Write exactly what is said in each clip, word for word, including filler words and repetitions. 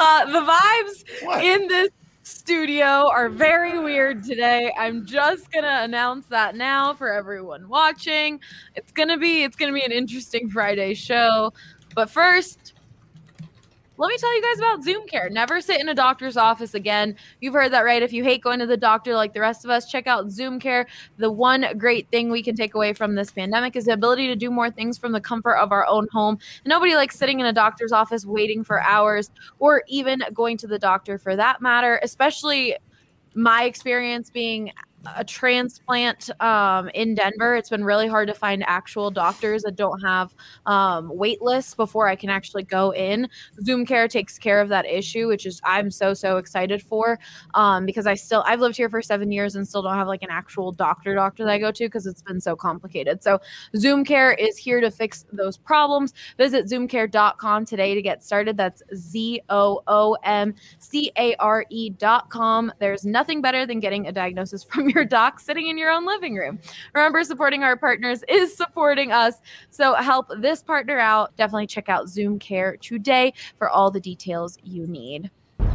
Uh, the vibes What? in this studio are very weird today. I'm just gonna announce that now for everyone watching. It's gonna be it's gonna be an interesting Friday show. But first, let me tell you guys about Zoom Care. Never sit in a doctor's office again. You've heard that, right? If you hate going to the doctor like the rest of us, check out Zoom Care. The one great thing we can take away from this pandemic is the ability to do more things from the comfort of our own home. Nobody likes sitting in a doctor's office waiting for hours, or even going to the doctor for that matter, especially my experience being a transplant um, in Denver. It's been really hard to find actual doctors that don't have um, wait lists before I can actually go in. Zoom Care takes care of that issue, which is I'm so, so excited for um, because I still, I've lived here for seven years and still don't have like an actual doctor doctor that I go to because it's been so complicated. So Zoom Care is here to fix those problems. Visit zoom care dot com today to get started. That's Z O O M C A R E dot com. There's nothing better than getting a diagnosis from your doc sitting in your own living room. Remember, supporting our partners is supporting us. So help this partner out. Definitely check out Zoom Care today for all the details you need.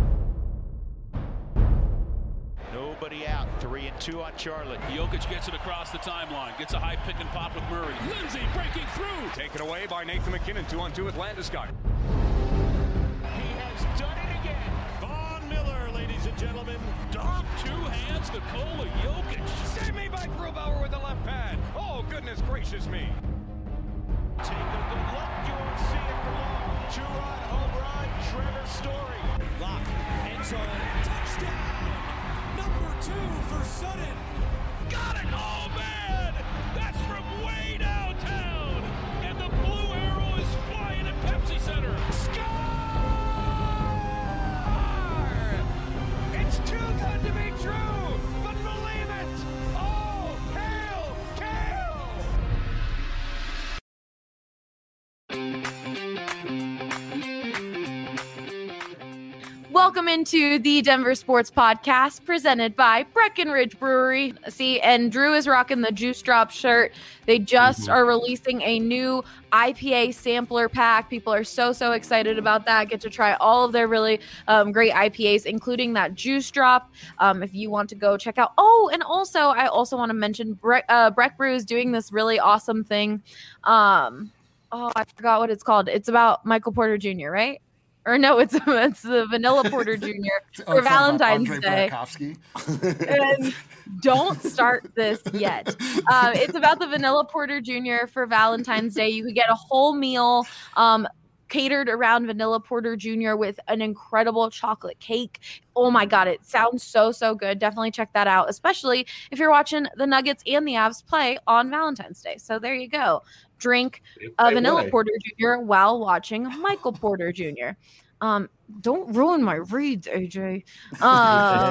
Nobody out. Three and two on Charlotte. Jokic gets it across the timeline. Gets a high pick and pop with Murray. Lindsay breaking through. Taken away by Nathan McKinnon. Two on two with Landeskog. He has done it again. Von Miller, ladies and gentlemen. Dom two hands Nikola Jokic. Save me by Grubauer with the left pad. Oh, goodness gracious me. Take a good look. You won't see it for long. Two-run home run. Trevor Story. Lock. End zone. Touchdown. Number two for Sutton. Got it. Oh, man. That's from way downtown. And the blue arrow is flying at Pepsi Center. Score! It's too good to be true, but believe it! Oh, hail, Kale! Welcome into the Denver Sports Podcast presented by Breckenridge Brewery. See, and Drew is rocking the Juice Drop shirt. They just mm-hmm. are releasing a new I P A sampler pack. People are so, so excited about that. Get to try all of their really um, great I P As, including that Juice Drop. Um, if you want to go check out. Oh, and also, I also want to mention Bre- uh, Breck Brew is doing this really awesome thing. Um, oh, I forgot what it's called. It's about Michael Porter Junior, right? Or no, it's it's the Vanilla Porter Junior for oh, Valentine's Day. And don't start this yet. Um, it's about the Vanilla Porter Junior for Valentine's Day. You could get a whole meal um, catered around Vanilla Porter Junior with an incredible chocolate cake. Oh my God, it sounds so, so good. Definitely check that out, especially if you're watching the Nuggets and the Avs play on Valentine's Day. So there you go. Drink a Vanilla way. Porter Junior while watching Michael Porter Junior Um, don't ruin my reads, A J. Um,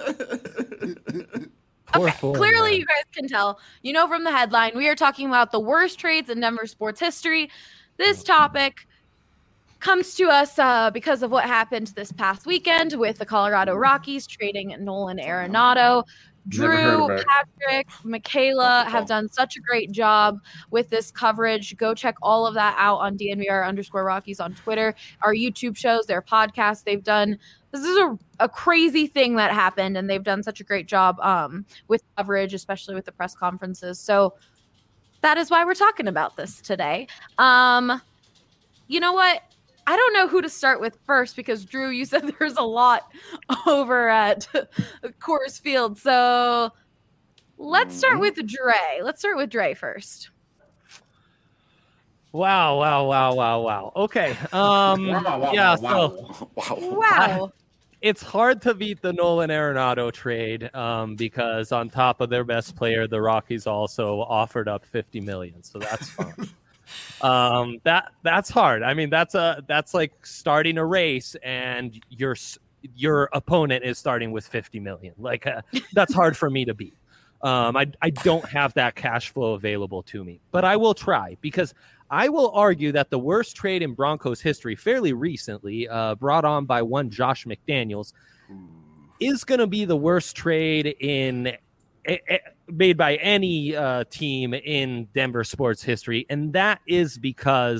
okay, form, clearly man. You guys can tell. You know from the headline, we are talking about the worst trades in Denver sports history. This topic comes to us uh, because of what happened this past weekend with the Colorado Rockies trading Nolan Arenado. Drew, Patrick, Michaela have done such a great job with this coverage. Go check all of that out on D N V R underscore Rockies on Twitter. Our YouTube shows, their podcasts, they've done. This is a, a crazy thing that happened, and they've done such a great job um, with coverage, especially with the press conferences. So that is why we're talking about this today. Um, you know what? I don't know who to start with first because, Drew, you said there's a lot over at Coors Field. So let's start with Dre. Let's start with Dre first. Wow, wow, wow, wow, wow. Okay. Um, wow, wow, yeah, wow, so wow. wow. I, it's hard to beat the Nolan Arenado trade um, because on top of their best player, the Rockies also offered up fifty million dollars. So that's fine. um that that's hard. I mean, that's a that's like starting a race and your your opponent is starting with fifty million. Like uh, that's hard for me to beat. um I, I don't have that cash flow available to me, but I will try, because I will argue that the worst trade in Broncos history fairly recently, uh brought on by one Josh McDaniels, is going to be the worst trade in made by any uh, team in Denver sports history. And that is because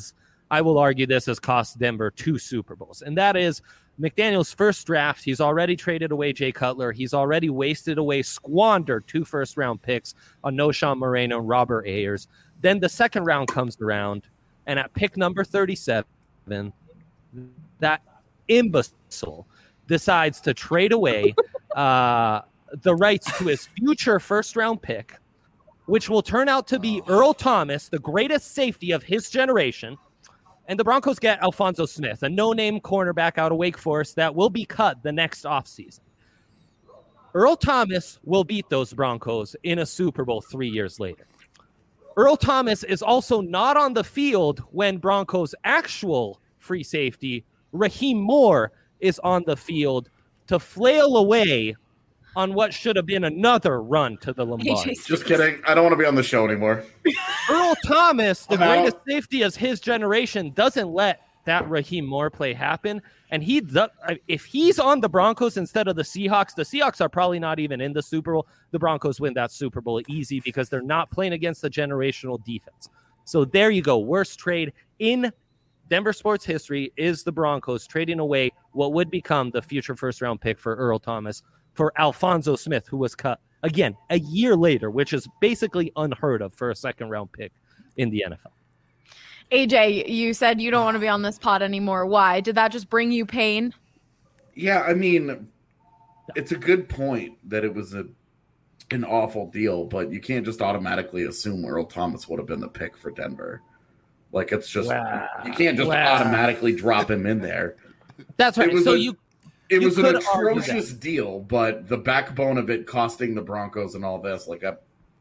I will argue this has cost Denver two Super Bowls. And that is McDaniel's first draft. He's already traded away Jay Cutler. He's already wasted away, squandered two first-round picks on Noshawn Moreno and Robert Ayers. Then the second round comes around, and at pick number thirty-seven, that imbecile decides to trade away uh, the rights to his future first-round pick, which will turn out to be Earl Thomas, the greatest safety of his generation. And the Broncos get Alfonso Smith, a no-name cornerback out of Wake Forest that will be cut the next offseason. Earl Thomas will beat those Broncos in a Super Bowl three years later. Earl Thomas is also not on the field when Broncos' actual free safety, Raheem Moore, is on the field to flail away on what should have been another run to the Lombardi. Just kidding. I don't want to be on the show anymore. Earl Thomas, the I'm greatest out. safety of his generation, doesn't let that Raheem Moore play happen. And he, does, if he's on the Broncos instead of the Seahawks, the Seahawks are probably not even in the Super Bowl. The Broncos win that Super Bowl easy because they're not playing against a generational defense. So there you go. Worst trade in Denver sports history is the Broncos trading away what would become the future first-round pick for Earl Thomas for Alfonso Smith, who was cut, again, a year later, which is basically unheard of for a second-round pick in the N F L. A J, you said you don't want to be on this pod anymore. Why? Did that just bring you pain? Yeah, I mean, it's a good point that it was a an awful deal, but you can't just automatically assume Earl Thomas would have been the pick for Denver. Like, it's just, wow. you can't just wow. automatically drop him in there. That's right. So a, you It you was an could argue atrocious that. deal, but the backbone of it costing the Broncos and all this, like, I,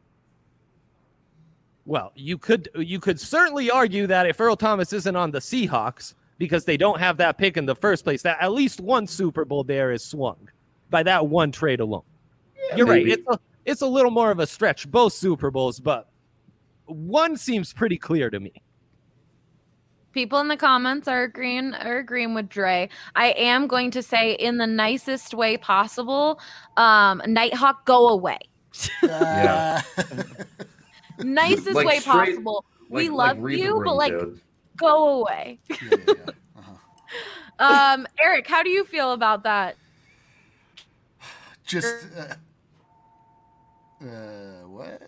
Well, you could you could certainly argue that if Earl Thomas isn't on the Seahawks because they don't have that pick in the first place, that at least one Super Bowl there is swung by that one trade alone. Yeah, You're maybe. right. It's a, it's a little more of a stretch, both Super Bowls, but one seems pretty clear to me. People in the comments are agreeing are agreeing with Dre. I am going to say in the nicest way possible, um, Nighthawk, go away. yeah. Nicest Like way straight- possible. like- we like love read the you, room, but like dude. go away. Yeah, yeah, yeah. Uh-huh. um, Eric, how do you feel about that? Just uh, uh, what?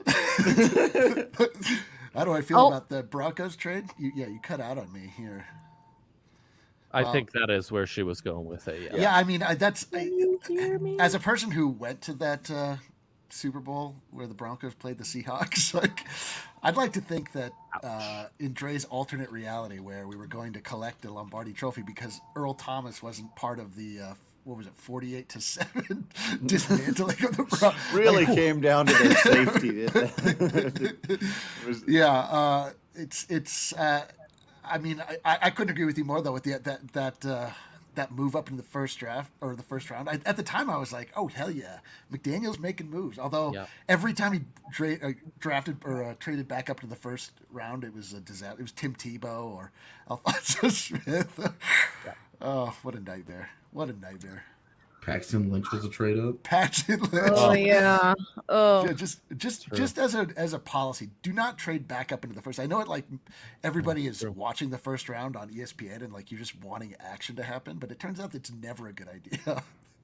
How do I feel Oh. about the Broncos trade? You, yeah, you cut out on me here. I Wow. think that is where she was going with it. Yeah. Yeah, I mean, I, that's I, as a person who went to that uh, Super Bowl where the Broncos played the Seahawks. Like, I'd like to think that uh, in Dre's alternate reality, where we were going to collect the Lombardi Trophy because Earl Thomas wasn't part of the uh, what was it, forty-eight to seven dismantling of the Broncos. Really Like, came down to their safety. Didn't it? It was- yeah, uh, it's it's. Uh, I mean, I, I couldn't agree with you more though with the, that that uh, that move up in the first draft or the first round. I, at the time, I was like, "Oh hell yeah, McDaniel's making moves." Although Yeah. every time he dra- uh, drafted or uh, traded back up to the first round, it was a disaster. It was Tim Tebow or Alfonso Smith. Oh, what a nightmare! What a nightmare! Paxton Lynch was a trade up. Paxton Lynch. Oh yeah. Oh. Yeah, just just just as a as a policy, do not trade back up into the first. I know it like everybody is watching the first round on E S P N and like you're just wanting action to happen, but it turns out it's never a good idea.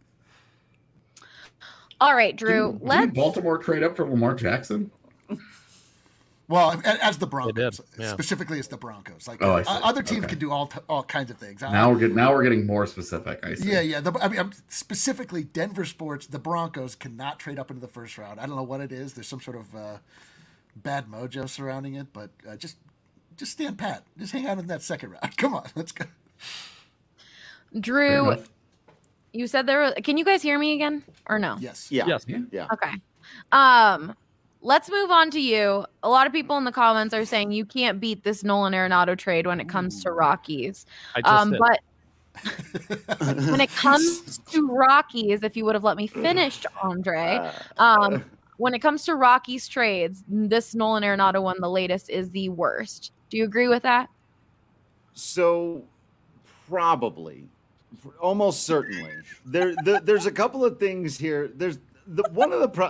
All right, Drew. Didn't, let's didn't Baltimore trade up for Lamar Jackson? Well, a- as the Broncos, did, yeah. specifically as the Broncos, like Oh, I uh, see. other teams Okay. can do all t- all kinds of things. I- Now we're getting now we're getting more specific. I see. Yeah, yeah. The, I mean, I'm, specifically Denver sports, the Broncos cannot trade up into the first round. I don't know what it is. There's some sort of uh, bad mojo surrounding it, but uh, just just stand pat. Just hang out in that second round. Come on, let's go. Fair Drew, enough. you said there. Were, can you guys hear me again or no? Yes. yeah. Yes. Yeah. Yeah. Okay. Um, let's move on to you. A lot of people in the comments are saying you can't beat this Nolan Arenado trade when it comes to Rockies. I just Um, did. but when it comes to Rockies, if you would have let me finish, Andre, um, when it comes to Rockies trades, this Nolan Arenado one, the latest, is the worst. Do you agree with that? So probably, almost certainly. There, there there's a couple of things here. There's the one of the pro-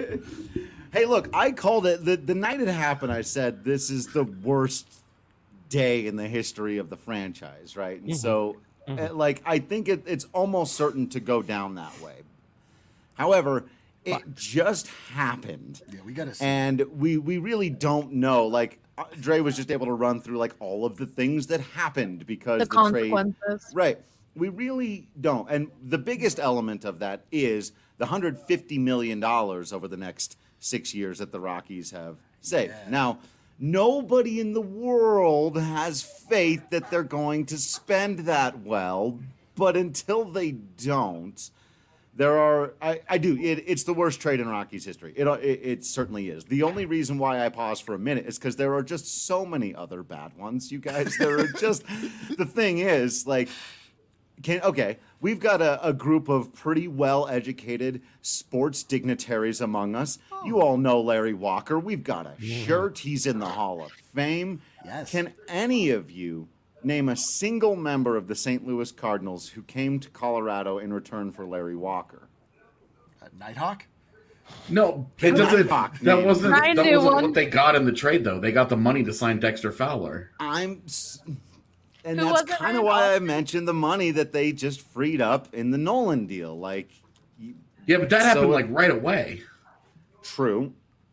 Hey, look, I called it the, the night it happened. I said this is the worst day in the history of the franchise, right? And Mhm. so, Mhm. uh, like, I think it, it's almost certain to go down that way. However, it just happened. Yeah, we got to see. And we we really don't know. Like, uh, Dre was just able to run through like all of the things that happened because The the, trade. consequences. Right. We really don't. And the biggest element of that is the one hundred fifty million dollars over the next six years that the Rockies have saved. Yeah. Now, nobody in the world has faith that they're going to spend that well, but until they don't, there are, I, I do, it, it's the worst trade in Rockies history. It, it it certainly is. The only reason why I pause for a minute is because there are just so many other bad ones, you guys. There are just, the thing is, like, can okay, we've got a, a group of pretty well-educated sports dignitaries among us. You all know Larry Walker. We've got a shirt. He's in the Hall of Fame. Yes. Can any of you name a single member of the Saint Louis Cardinals who came to Colorado in return for Larry Walker? Uh, Nighthawk? No, it doesn't. Fuck, That man. wasn't. Ryan That knew wasn't one. what they got in the trade, though. They got the money to sign Dexter Fowler. I'm, s- and Who that's was it, kind of Randolph? why I mentioned the money that they just freed up in the Nolan deal. Like, you- Yeah, but that So- happened like right away. true,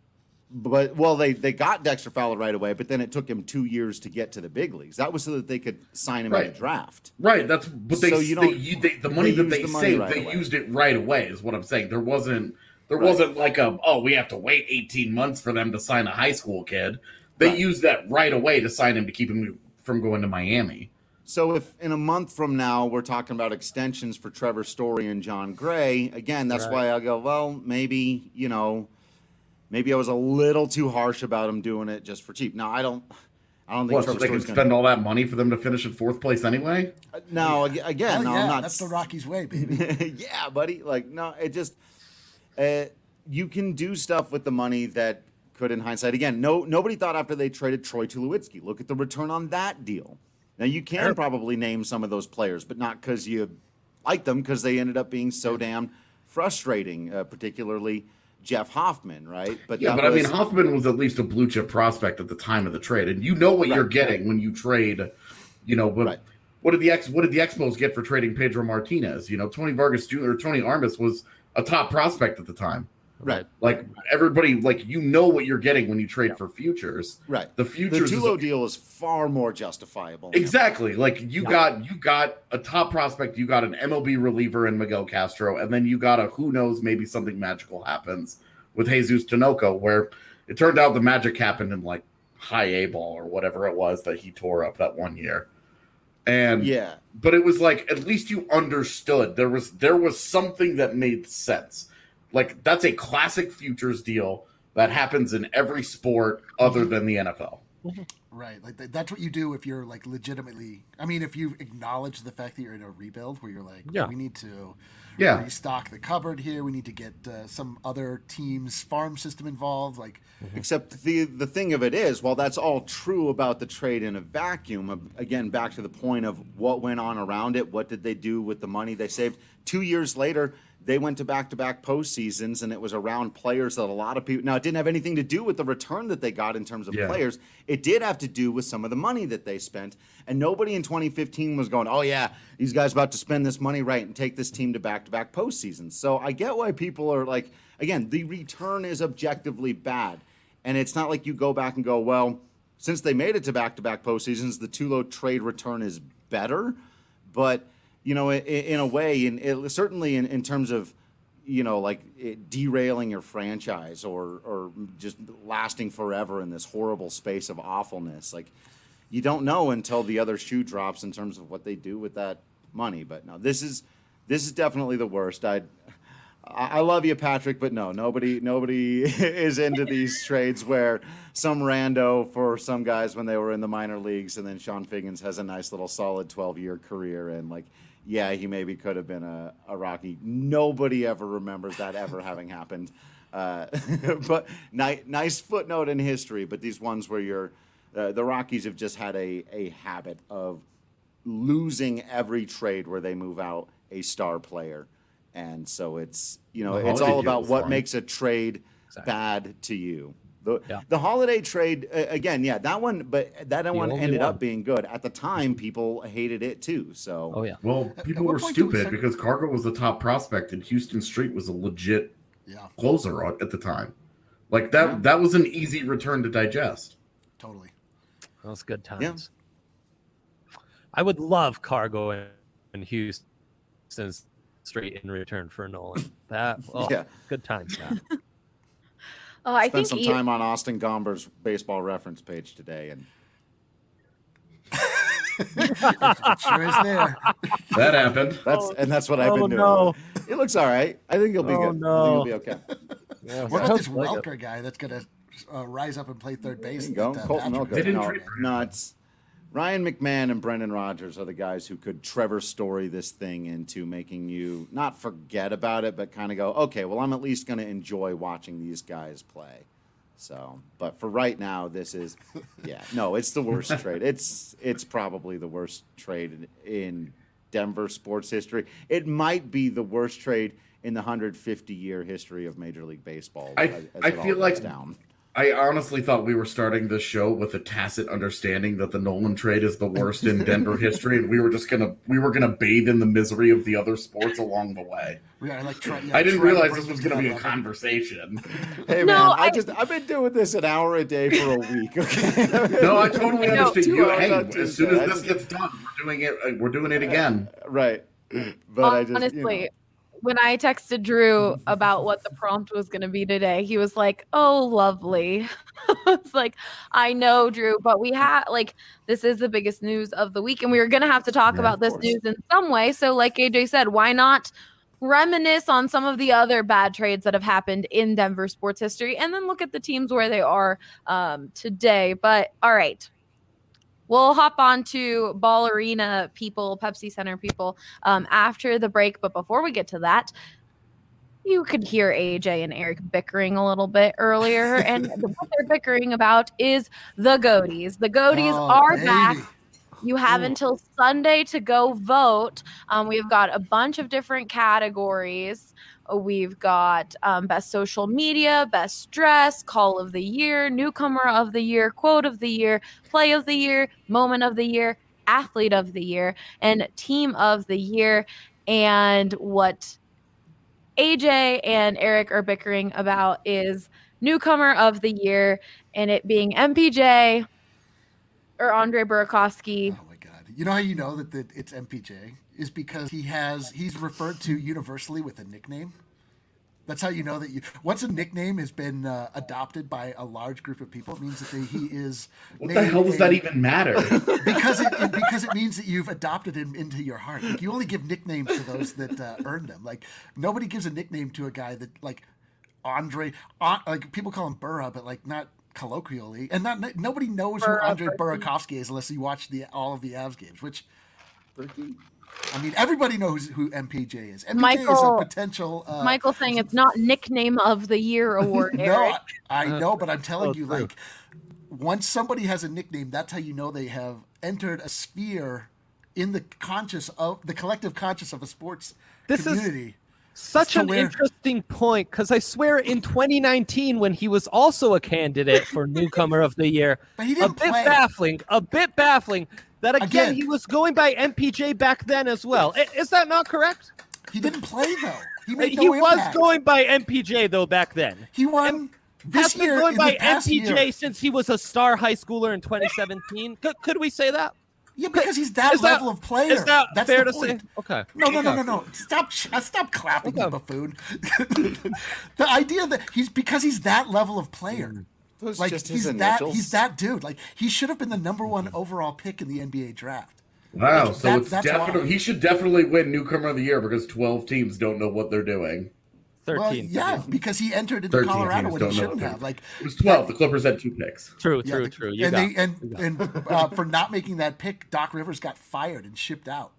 but well, they they got Dexter Fowler right away, but then it took him two years to get to the big leagues. That was so that they could sign him in Right. the draft. Right. That's but they, So you they, don't- you- they the money they that used they the money saved, right they away. used it right away. Is what I'm saying. There wasn't there Right. wasn't like a oh we have to wait eighteen months for them to sign a high school kid. They Right. used that right away to sign him to keep him from going to Miami. So if in a month from now we're talking about extensions for Trevor Story and John Gray, again, that's Right. why I go, well, maybe, you know, maybe I was a little too harsh about him doing it just for cheap. Now, I don't I don't think What, so Trevor they can Story's spend going all that money for them to finish in fourth place anyway? to Now, ag- again, Hell no, yeah, I'm not that's the Rockies way, baby. yeah, buddy. Like, no, it just uh, you can do stuff with the money that could, in hindsight, again, no, nobody thought after they traded Troy Tulowitzki. Look at the return on that deal. Now you can Sure. probably name some of those players, but not because you like them, because they ended up being so damn frustrating, uh, particularly Jeff Hoffman, right? But Yeah, that but I mean was- Hoffman was at least a blue chip prospect at the time of the trade, and you know what Right. you're getting when you trade. You know, but Right. what did the ex what did the Expos get for trading Pedro Martinez? You know, Tony Vargas Junior or Tony Armas was a top prospect at the time. right, Like everybody, like you know what you're getting when you trade for futures. right. The The futures is Tulo deal is far more justifiable. exactly like you Yeah. got you got a top prospect, you got an M L B reliever in Miguel Castro, and then you got a who knows maybe something magical happens with Jesus Tinoco, where it turned out the magic happened in like high A ball or whatever it was that he tore up that one year. And Yeah, but it was like at least you understood there was there was something that made sense. Like that's a classic futures deal that happens in every sport other than the N F L. Right, like th- that's what you do if you're like legitimately. I mean, if you acknowledge the fact that you're in a rebuild, where you're like, Yeah. we need to Yeah. restock the cupboard here. We need to get uh, some other team's farm system involved. Like, except the the thing of it is, while that's all true about the trade in a vacuum, uh, again, back to the point of what went on around it, what did they do with the money they saved? Two years later, they went to back-to-back postseasons, and it was around players that a lot of people. Now, it didn't have anything to do with the return that they got in terms of Yeah. players. It did have to do with some of the money that they spent, and nobody in twenty fifteen was going, "Oh yeah, these guys about to spend this money right and take this team to back-to-back postseasons." So I get why people are like, again, the return is objectively bad, and it's not like you go back and go, "Well, since they made it to back-to-back postseasons, the Tulo trade return is better," but you know, in, in a way, and it, certainly in, in terms of, you know, like it derailing your franchise or or just lasting forever in this horrible space of awfulness. Like, you don't know until the other shoe drops in terms of what they do with that money. But no, this is this is definitely the worst. I I love you, Patrick, but no, nobody nobody is into these trades where some rando for some guys when they were in the minor leagues, and then Sean Figgins has a nice little solid twelve-year career, and like, yeah, he maybe could have been a, a Rocky. Nobody ever remembers that ever having happened. Uh, but ni- nice footnote in history, but these ones where you're, uh, the Rockies have just had a, a habit of losing every trade where they move out a star player. And so it's, you know, The it's Holiday all deal about was what fun. makes a trade Exactly. bad to you. The Yeah. the holiday trade uh, again, yeah, that one, but that one only ended one. up being good. At the time, people hated it too. So Oh yeah. Well, people what were point do we stupid start- because Cargo was the top prospect and Houston Street was a legit Yeah, closer on- at the time. Like that, Yeah. that was an easy return to digest. totally. Those good times. I would love Cargo and, and Houston Street in return for Nolan. That oh, Yeah. good times. Matt. Oh, I spent think some E- time on Austin Gomber's baseball reference page today, and It sure is there. That happened. that's and that's what I've Oh, been doing. no. It looks all right. I think he'll be Oh, good. no. I think he'll be okay. Yeah, What about this sounds like it. Welker guy that's going to uh, rise up and play third base? There you go, that, uh, Colton Patrick Welker. They didn't No, trade for him. no, it's Ryan McMahon and Brendan Rodgers are the guys who could Trevor Story this thing into making you not forget about it, but kind of go, okay, well, I'm at least going to enjoy watching these guys play. So, but for right now, this is, yeah, no, it's the worst trade. It's it's probably the worst trade in, in Denver sports history. It might be the worst trade in the one hundred fifty year history of Major League Baseball. I- as I it all feel goes like- down. I honestly thought we were starting this show with a tacit understanding that the Nolan trade is the worst in Denver history, and we were just gonna we were gonna bathe in the misery of the other sports along the way. Yeah, like try, yeah, I didn't try to realize bring this was him to gonna be that a level. conversation. Hey No, man, I, I- just I've been doing this an hour a day for a week. Okay. No, I totally No, understand. two You, hours hey, on as soon Tuesday. as this gets done, we're doing it. uh, We're doing it again. Right. But I just honestly, you know. when I texted Drew about what the prompt was going to be today, he was like, "Oh, lovely." I was like, "I know, Drew, but we had like this is the biggest news of the week, and we were going to have to talk Yeah, about of this course. news in some way." So, like A J said, why not reminisce on some of the other bad trades that have happened in Denver sports history, and then look at the teams where they are um, today? But all right. We'll hop on to Ball Arena people, Pepsi Center people um, after the break. But before we get to that, you could hear A J and Eric bickering a little bit earlier. And what they're bickering about is the Goaties. The Goaties Oh, are baby. back. You have Ooh. until Sunday to go vote. Um, we've got a bunch of different categories. We've got um, best social media, best dress, call of the year, newcomer of the year, quote of the year, play of the year, moment of the year, athlete of the year, and team of the year. And what A J and Eric are bickering about is newcomer of the year, and it being M P J or Andre Burakovsky. Oh my God! You know how you know that, that it's M P J is because he has he's referred to universally with a nickname. That's how you know that you once a nickname has been uh, adopted by a large group of people. It means that they, he is. What the hell does that even matter? Because it, it because it means that you've adopted him into your heart. Like, you only give nicknames to those that uh, earn them. Like nobody gives a nickname to a guy that like Andre. Uh, like people call him Burra, but like not colloquially, and not nobody knows Burra, who Andre Burra. Burakovsky is unless you watch the all of the Avs games. Which I mean, everybody knows who M P J is. M P J is Michael- a potential. Uh, Michael saying it's not nickname of the year award, no, Eric. I, I know, but I'm telling Oh, you, true. like, once somebody has a nickname, that's how you know they have entered a sphere in the conscious of the collective conscious of a sports This is- community. Such to an where- interesting point, because I swear in twenty nineteen, when he was also a candidate for newcomer of the year, But he a didn't bit play. baffling, a bit baffling that again, Again. he was going by M P J back then as well. I- Is that not correct? He didn't play though. He made he no was impact. going by M P J though back then. He won this Has been year going in by the past M P J year. since he was a star high schooler in twenty seventeen. could, could we say that? Yeah, because he's that Is that- level of player. Is that That's fair the to point. say? Okay. No, no, no, Okay. no, no. Stop! sh- uh, Stop clapping, you Okay. buffoon. The idea that he's because he's that level of player. Those Like just his he's that initials. he's that dude. Like he should have been the number one overall pick in the N B A draft. Wow, Like, so that- it's that's definitely why. he should definitely win newcomer of the year because twelve teams don't know what they're doing. thirteen. Well, yeah, because he entered into Thirteen Colorado teams when don't he know. shouldn't what have. they're- Like it was twelve. The Clippers had two picks. True, yeah, true, the- true. You and got they and and uh, for not making that pick, Doc Rivers got fired and shipped out.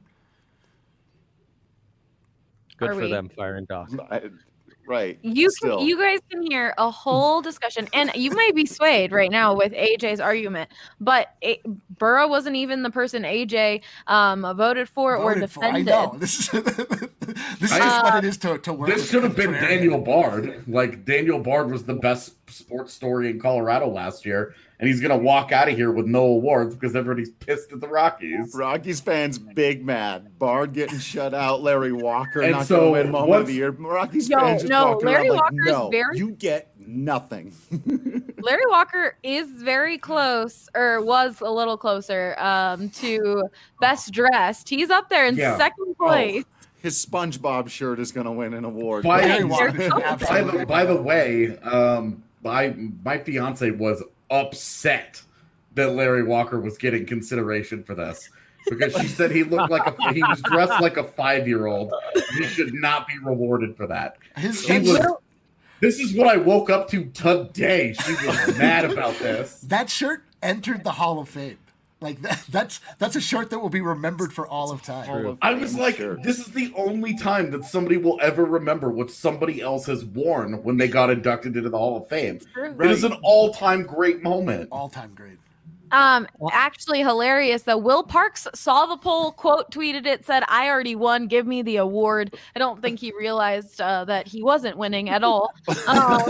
good Are for we- them firing Doc. I- right. You Still. can, you guys can hear a whole discussion, and you may be swayed right now with A J's argument, but it, Burrow wasn't even the person A J um, voted for or Voted for. I defended. know this is this is I- just what it is to to work. This with should have been contrarian. Daniel Bard. Like Daniel Bard was the best sports story in Colorado last year, and he's going to walk out of here with no awards because everybody's pissed at the Rockies. Rockies fans big mad. Bard getting shut out. Larry Walker And not so going to win moment once- of the year. Rockies No, fans just no, walked Larry around like, Walker's no, very- you get nothing. Larry Walker is very close, or was a little closer, um, to best dressed. He's up there in Yeah. second place. His SpongeBob shirt is going to win an award. By, Larry They're Walker, so by, absolutely. the, by the way, um, my, my fiance was upset that Larry Walker was getting consideration for this because she said he looked like a he was dressed like a five-year-old. He should not be rewarded for that. His, He his- was. This is what I woke up to today. She was mad about this. that shirt entered the Hall of Fame. Like that, that's that's a shirt that will be remembered for all of time. Hall of I was Fame like, shirt. this is the only time that somebody will ever remember what somebody else has worn when they got inducted into the Hall of Fame. It is an all-time great moment. All time great. Um, actually hilarious though. Will Parks saw the poll, quote tweeted it, said, "I already won. Give me the award." I don't think he realized uh, that he wasn't winning at all. Um,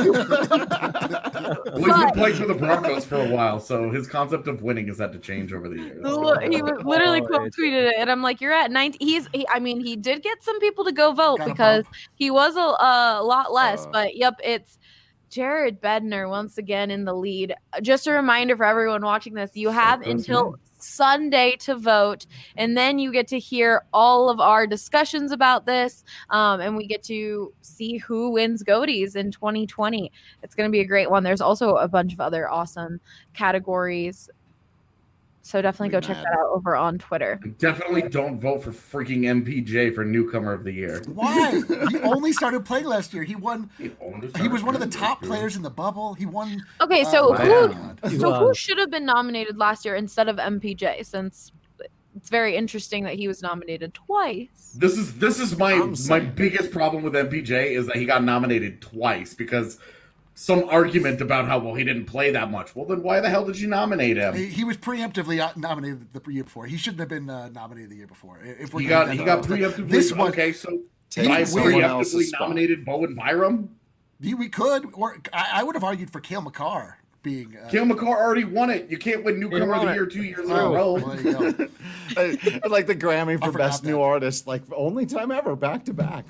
Well, he's been playing for the Broncos for a while, so his concept of winning has had to change over the years. he was literally Oh, quote it's- tweeted it, and I'm like, "You're at ninety." He's, he, I mean, he did get some people to go vote Got a because bump. he was a, a lot less. Uh. but yep, it's Jared Bednar once again in the lead. Just a reminder for everyone watching this: you have goes until me. Sunday to vote, and then you get to hear all of our discussions about this, um, and we get to see who wins Goaties in twenty twenty. It's going to be a great one. There's also a bunch of other awesome categories, so definitely go check Mad. that out over on Twitter. Definitely don't vote for freaking M P J for newcomer of the year. Why? He only started playing last year. He won. He only He was started one of the playing top this year. players in the bubble. He won. Okay, so uh, who wow. God. so who was. should have been nominated last year instead of M P J? Since it's very interesting that he was nominated twice. This is this is my I'm my saying- biggest problem with M P J is that he got nominated twice because some argument about how well he didn't play that much. Well, then why the hell did you nominate him? He, he was preemptively uh, nominated the year before. He shouldn't have been uh, nominated the year before. If we're He gonna got get he that got wrong. preemptively This one, okay. So Take I someone else's preemptively spot. nominated Bowen Byram. we we could, or I, I would have argued for Cale Makar being. Uh, Cale Makar already won it. You can't win newcomer of won the it. year two years in oh, a row. well, there you go. Uh, like the Grammy I for forgot Best that. New Artist, like only time ever, back to back.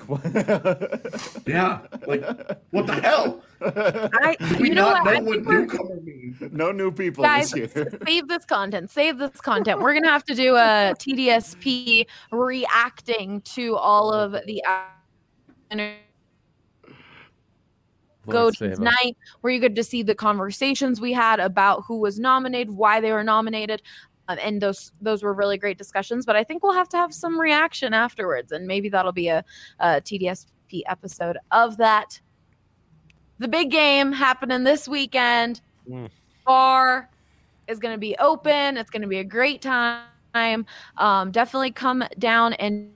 Yeah, like what the hell? I, Do we you know not what? I know what think we're- newcomer means? No new people Guys, this year. save this content. Save this content. We're gonna have to do a T D S P reacting to all of the Go Let's to save 'em. night, where you get to see the conversations we had about who was nominated, why they were nominated, um, and those those were really great discussions. But I think we'll have to have some reaction afterwards, and maybe that'll be a, a T D S P episode of that. The big game happening this weekend. Mm. Bar is going to be open. It's going to be a great time. Um, definitely come down and.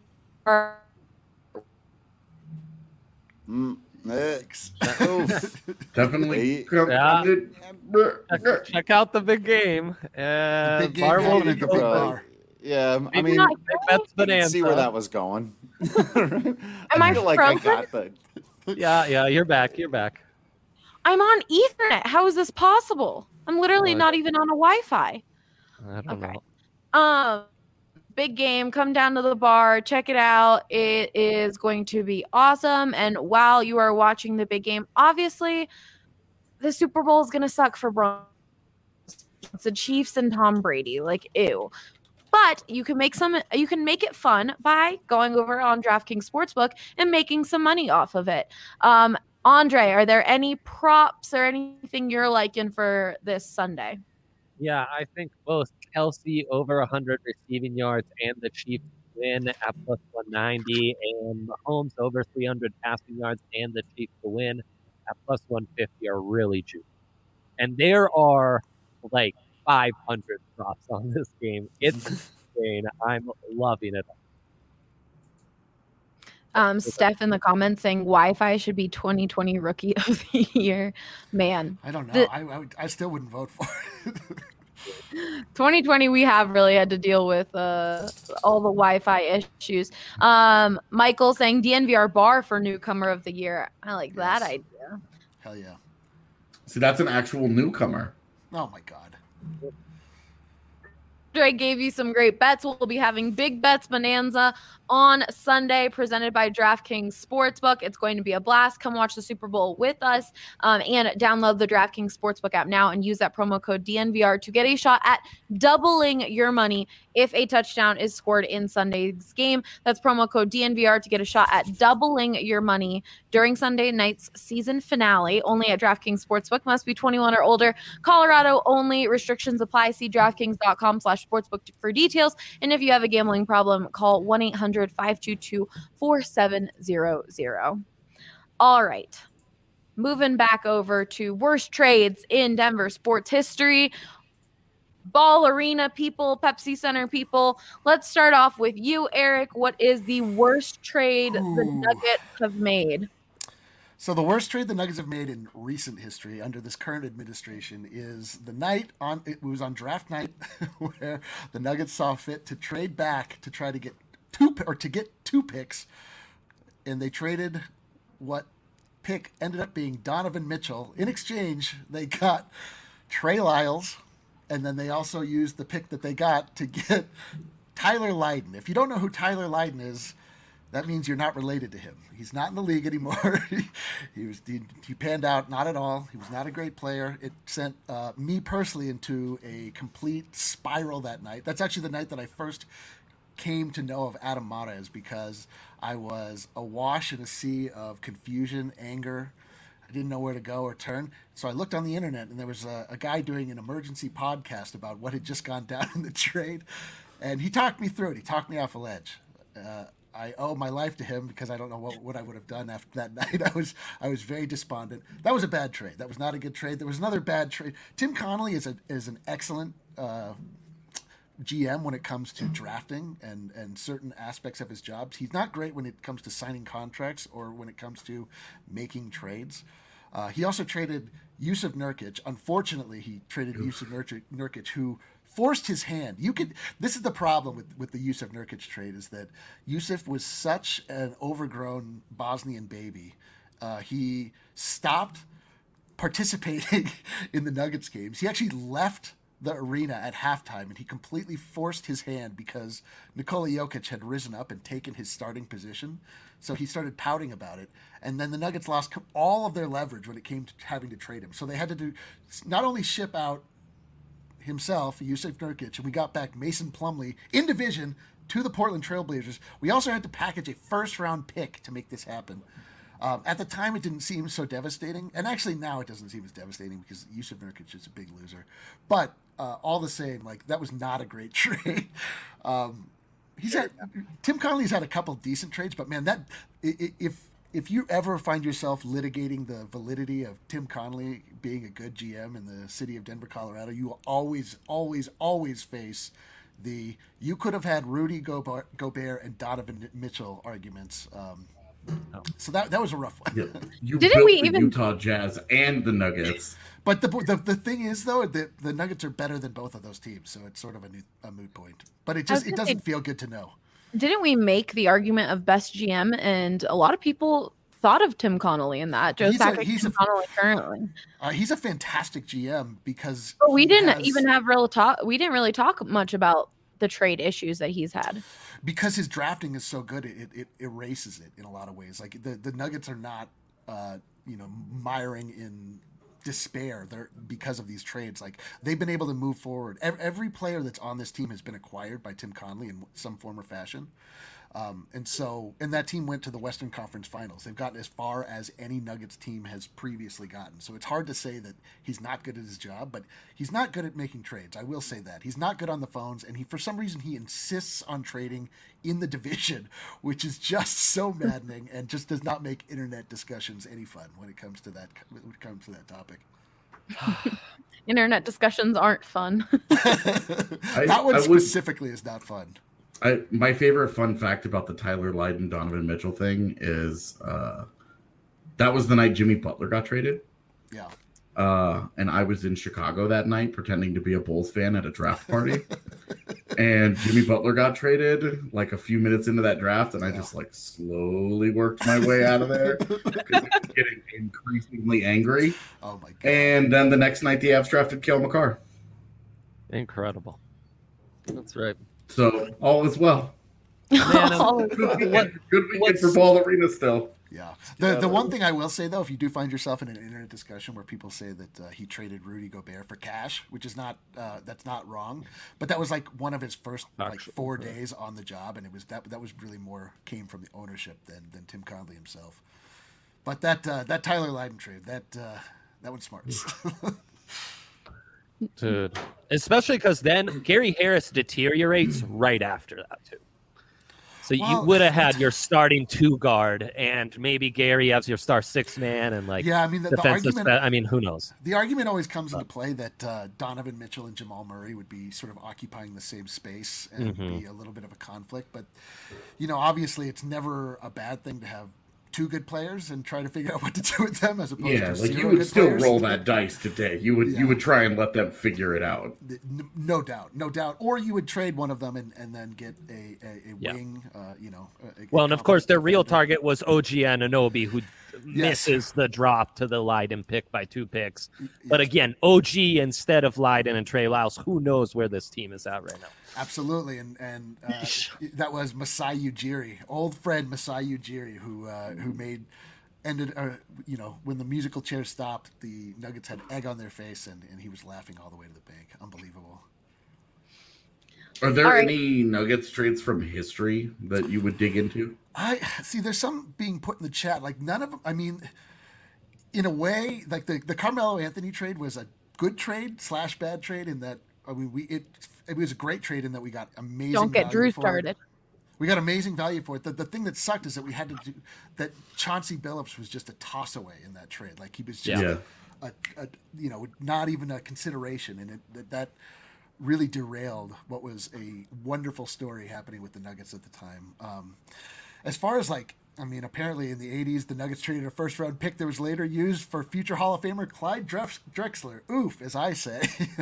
Mm, eh, oof. Definitely. Yeah. Check, Check. check out the big game. Uh, big game Bar will happening be at the big open. bar. Yeah, I Maybe mean, not That's I can see where Bonanza. that was going. Am I I feel like I frozen? got the. Yeah, yeah, you're back. You're back. I'm on Ethernet. How is this possible? I'm literally What? not even on a Wi-Fi. I don't Okay. know. Um, big game. Come down to the bar. Check it out. It is going to be awesome. And while you are watching the big game, obviously, the Super Bowl is going to suck for Broncos. It's the Chiefs and Tom Brady. Like, ew. But you can make some. You can make it fun by going over on DraftKings Sportsbook and making some money off of it. Um, Andre, are there any props or anything you're liking for this Sunday? Yeah, I think both Kelsey over one hundred receiving yards and the Chiefs win at plus one ninety, and Mahomes over three hundred passing yards and the Chiefs to win at plus one fifty are really juicy. And there are like five hundred props on this game. It's insane. I'm loving it. Um, Steph in the comments saying Wi-Fi should be twenty twenty Rookie of the Year. Man, I don't know. The- I, I, would- I still wouldn't vote for it. twenty twenty we have really had to deal with uh, all the Wi-Fi issues. Um, Michael saying D N V R bar for Newcomer of the Year. I like that Yes. idea. Hell yeah. See, that's an actual newcomer. Oh my God. Dre gave you some great bets. We'll be having Big Bets Bonanza on Sunday, presented by DraftKings Sportsbook. It's going to be a blast. Come watch the Super Bowl with us, um, and download the DraftKings Sportsbook app now and use that promo code D N V R to get a shot at doubling your money if a touchdown is scored in Sunday's game. That's promo code D N V R to get a shot at doubling your money during Sunday night's season finale. Only at DraftKings Sportsbook. Must be twenty-one or older. Colorado only. Restrictions apply. See DraftKings.com slash sportsbook for details. And if you have a gambling problem, call one eight hundred five two two four seven zero zero. All right. Moving back over to worst trades in Denver sports history. Ball Arena people, Pepsi Center people. Let's start off with you, Eric. What is the worst trade Ooh. the Nuggets have made? So the worst trade the Nuggets have made in recent history under this current administration is the night on it was on draft night where the Nuggets saw fit to trade back to try to get two or to get two picks, and they traded what pick ended up being Donovan Mitchell. In exchange, they got Trey Lyles, and then they also used the pick that they got to get Tyler Lydon. If you don't know who Tyler Lydon is, that means you're not related to him. He's not in the league anymore. he was he, he panned out not at all. He was not a great player. It sent uh, me personally into a complete spiral that night. That's actually the night that I first came to know of Adam Mares, because I was awash in a sea of confusion, anger. I didn't know where to go or turn. So I looked on the internet, and there was a, a guy doing an emergency podcast about what had just gone down in the trade. And he talked me through it. He talked me off a ledge. Uh, I owe my life to him because I don't know what, what I would have done after that night. I was I was very despondent. That was a bad trade. That was not a good trade. There was another bad trade. Tim Connolly is a is an excellent uh, G M when it comes to drafting and, and certain aspects of his jobs. He's not great when it comes to signing contracts or when it comes to making trades. Uh, he also traded Jusuf Nurkic. Unfortunately, he traded Jusuf Nurkic, Nurkic, who forced his hand. You could. This is the problem with, with the Jusuf Nurkic trade, is that Jusuf was such an overgrown Bosnian baby. Uh, he stopped participating in the Nuggets games. He actually left the arena at halftime, and he completely forced his hand because Nikola Jokic had risen up and taken his starting position. So he started pouting about it. And then the Nuggets lost all of their leverage when it came to having to trade him. So they had to do not only ship out himself, Jusuf Nurkic, and we got back Mason Plumlee in division to the Portland Trailblazers. We also had to package a first-round pick to make this happen. Um, at the time, it didn't seem so devastating, and actually now it doesn't seem as devastating because Jusuf Nurkic is a big loser. But uh, all the same, like, that was not a great trade. um, he's had Tim Connolly's had a couple decent trades, but man, that if if you ever find yourself litigating the validity of Tim Connolly being a good G M in the city of Denver, Colorado, you will always, always, always face the you could have had Rudy Gobert, Gobert and Donovan Mitchell arguments. Um, oh. So that that was a rough one. Yeah. You Didn't built we the even Utah Jazz and the Nuggets. But the, the the thing is, though, that the Nuggets are better than both of those teams, so it's sort of a, new, a moot point. But it just it doesn't say, feel good to know. Didn't we make the argument of best G M, and a lot of people thought of Tim Connolly in that? Joe Sakic, Tim a, Connolly currently. Uh, he's a fantastic G M because. But we didn't has, even have real talk. We didn't really talk much about the trade issues that he's had. Because his drafting is so good, it, it erases it in a lot of ways. Like the, the Nuggets are not, uh, you know, miring in despair there because of these trades. Like they've been able to move forward. Every, every player that's on this team has been acquired by Tim Connolly in some form or fashion. Um, and so, and that team went to the Western Conference Finals. They've gotten as far as any Nuggets team has previously gotten. So it's hard to say that he's not good at his job, but he's not good at making trades. I will say that. He's not good on the phones, and he, for some reason, he insists on trading in the division, which is just so maddening and just does not make internet discussions any fun when it comes to that, when it comes to that topic. Internet discussions aren't fun. I, that one I specifically would... is not fun. I, my favorite fun fact about the Tyler Lydon Donovan Mitchell thing is uh, that was the night Jimmy Butler got traded. Yeah. Uh, and I was in Chicago that night pretending to be a Bulls fan at a draft party. and Jimmy Butler got traded like a few minutes into that draft, and yeah. I just like slowly worked my way out of there because I was getting increasingly angry. Oh my god! And then the next night, the Avs drafted Cale Makar. Incredible. That's right. So all is well. Man, good weekend, good weekend for Ball Arena still. Yeah. The the one thing I will say though, if you do find yourself in an internet discussion where people say that uh, he traded Rudy Gobert for cash, which is not uh, that's not wrong, but that was like one of his first like four days on the job, and it was that that was really more came from the ownership than than Tim Connelly himself. But that uh, that Tyler Lydon trade, that uh, that one's smart. Dude, especially because then Gary Harris deteriorates right after that too. So well, you would have had your starting two guard, and maybe Gary as your star six man, and like yeah, I mean the, the argument. Spe- I mean, who knows? The argument always comes into play that uh, Donovan Mitchell and Jamal Murray would be sort of occupying the same space and mm-hmm. be a little bit of a conflict. But you know, obviously, it's never a bad thing to have two good players and try to figure out what to do with them as opposed yeah, to like zero you would good still players. roll that dice today. You would yeah. you would try and let them figure it out. No doubt, no doubt. Or you would trade one of them and, and then get a a, a yeah. wing. Uh, you know. A, well, a and of course, their real defender. target was O G Anunoby, who yes. misses the drop to the Lydon pick by two picks. Yes. But again, O G instead of Lydon and Trey Lyles. Who knows where this team is at right now? Absolutely, and and uh, that was Masai Ujiri, old friend Masai Ujiri, who uh, who made. Ended, uh, you know, when the musical chair stopped, the Nuggets had egg on their face, and, and he was laughing all the way to the bank. Unbelievable. Are there right. any Nuggets trades from history that you would dig into? I see. There's some being put in the chat. Like none of them. I mean, in a way, like the, the Carmelo Anthony trade was a good trade slash bad trade in that. I mean, we it it was a great trade in that we got amazing. Don't get Drew started. It. We got amazing value for it. The, the thing that sucked is that we had to do that. Chauncey Billups was just a toss away in that trade. Like he was just, yeah. a, a, a, you know, not even a consideration. And it, that, that really derailed what was a wonderful story happening with the Nuggets at the time. Um, as far as like, I mean, apparently in the eighties, the Nuggets traded a first round pick that was later used for future Hall of Famer Clyde Drexler. Oof, as I say.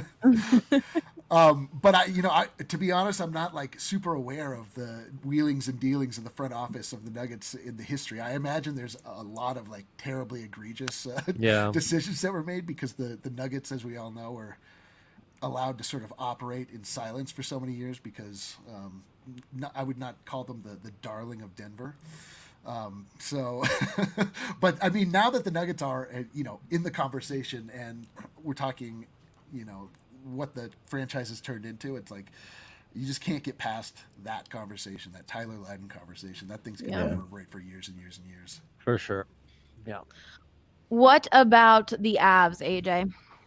Um, but I, you know, I, to be honest, I'm not like super aware of the wheelings and dealings in the front office of the Nuggets in the history. I imagine there's a lot of like terribly egregious uh, yeah. decisions that were made because the, the Nuggets, as we all know, were allowed to sort of operate in silence for so many years because um, not, I would not call them the, the darling of Denver. Um, so, but I mean, now that the Nuggets are, uh, you know, in the conversation and we're talking, you know, what the franchise has turned into, it's like you just can't get past that conversation, that Tyler Lydon conversation. That thing's gonna yeah. reverberate for years and years and years. For sure. Yeah. What about the Avs, A J?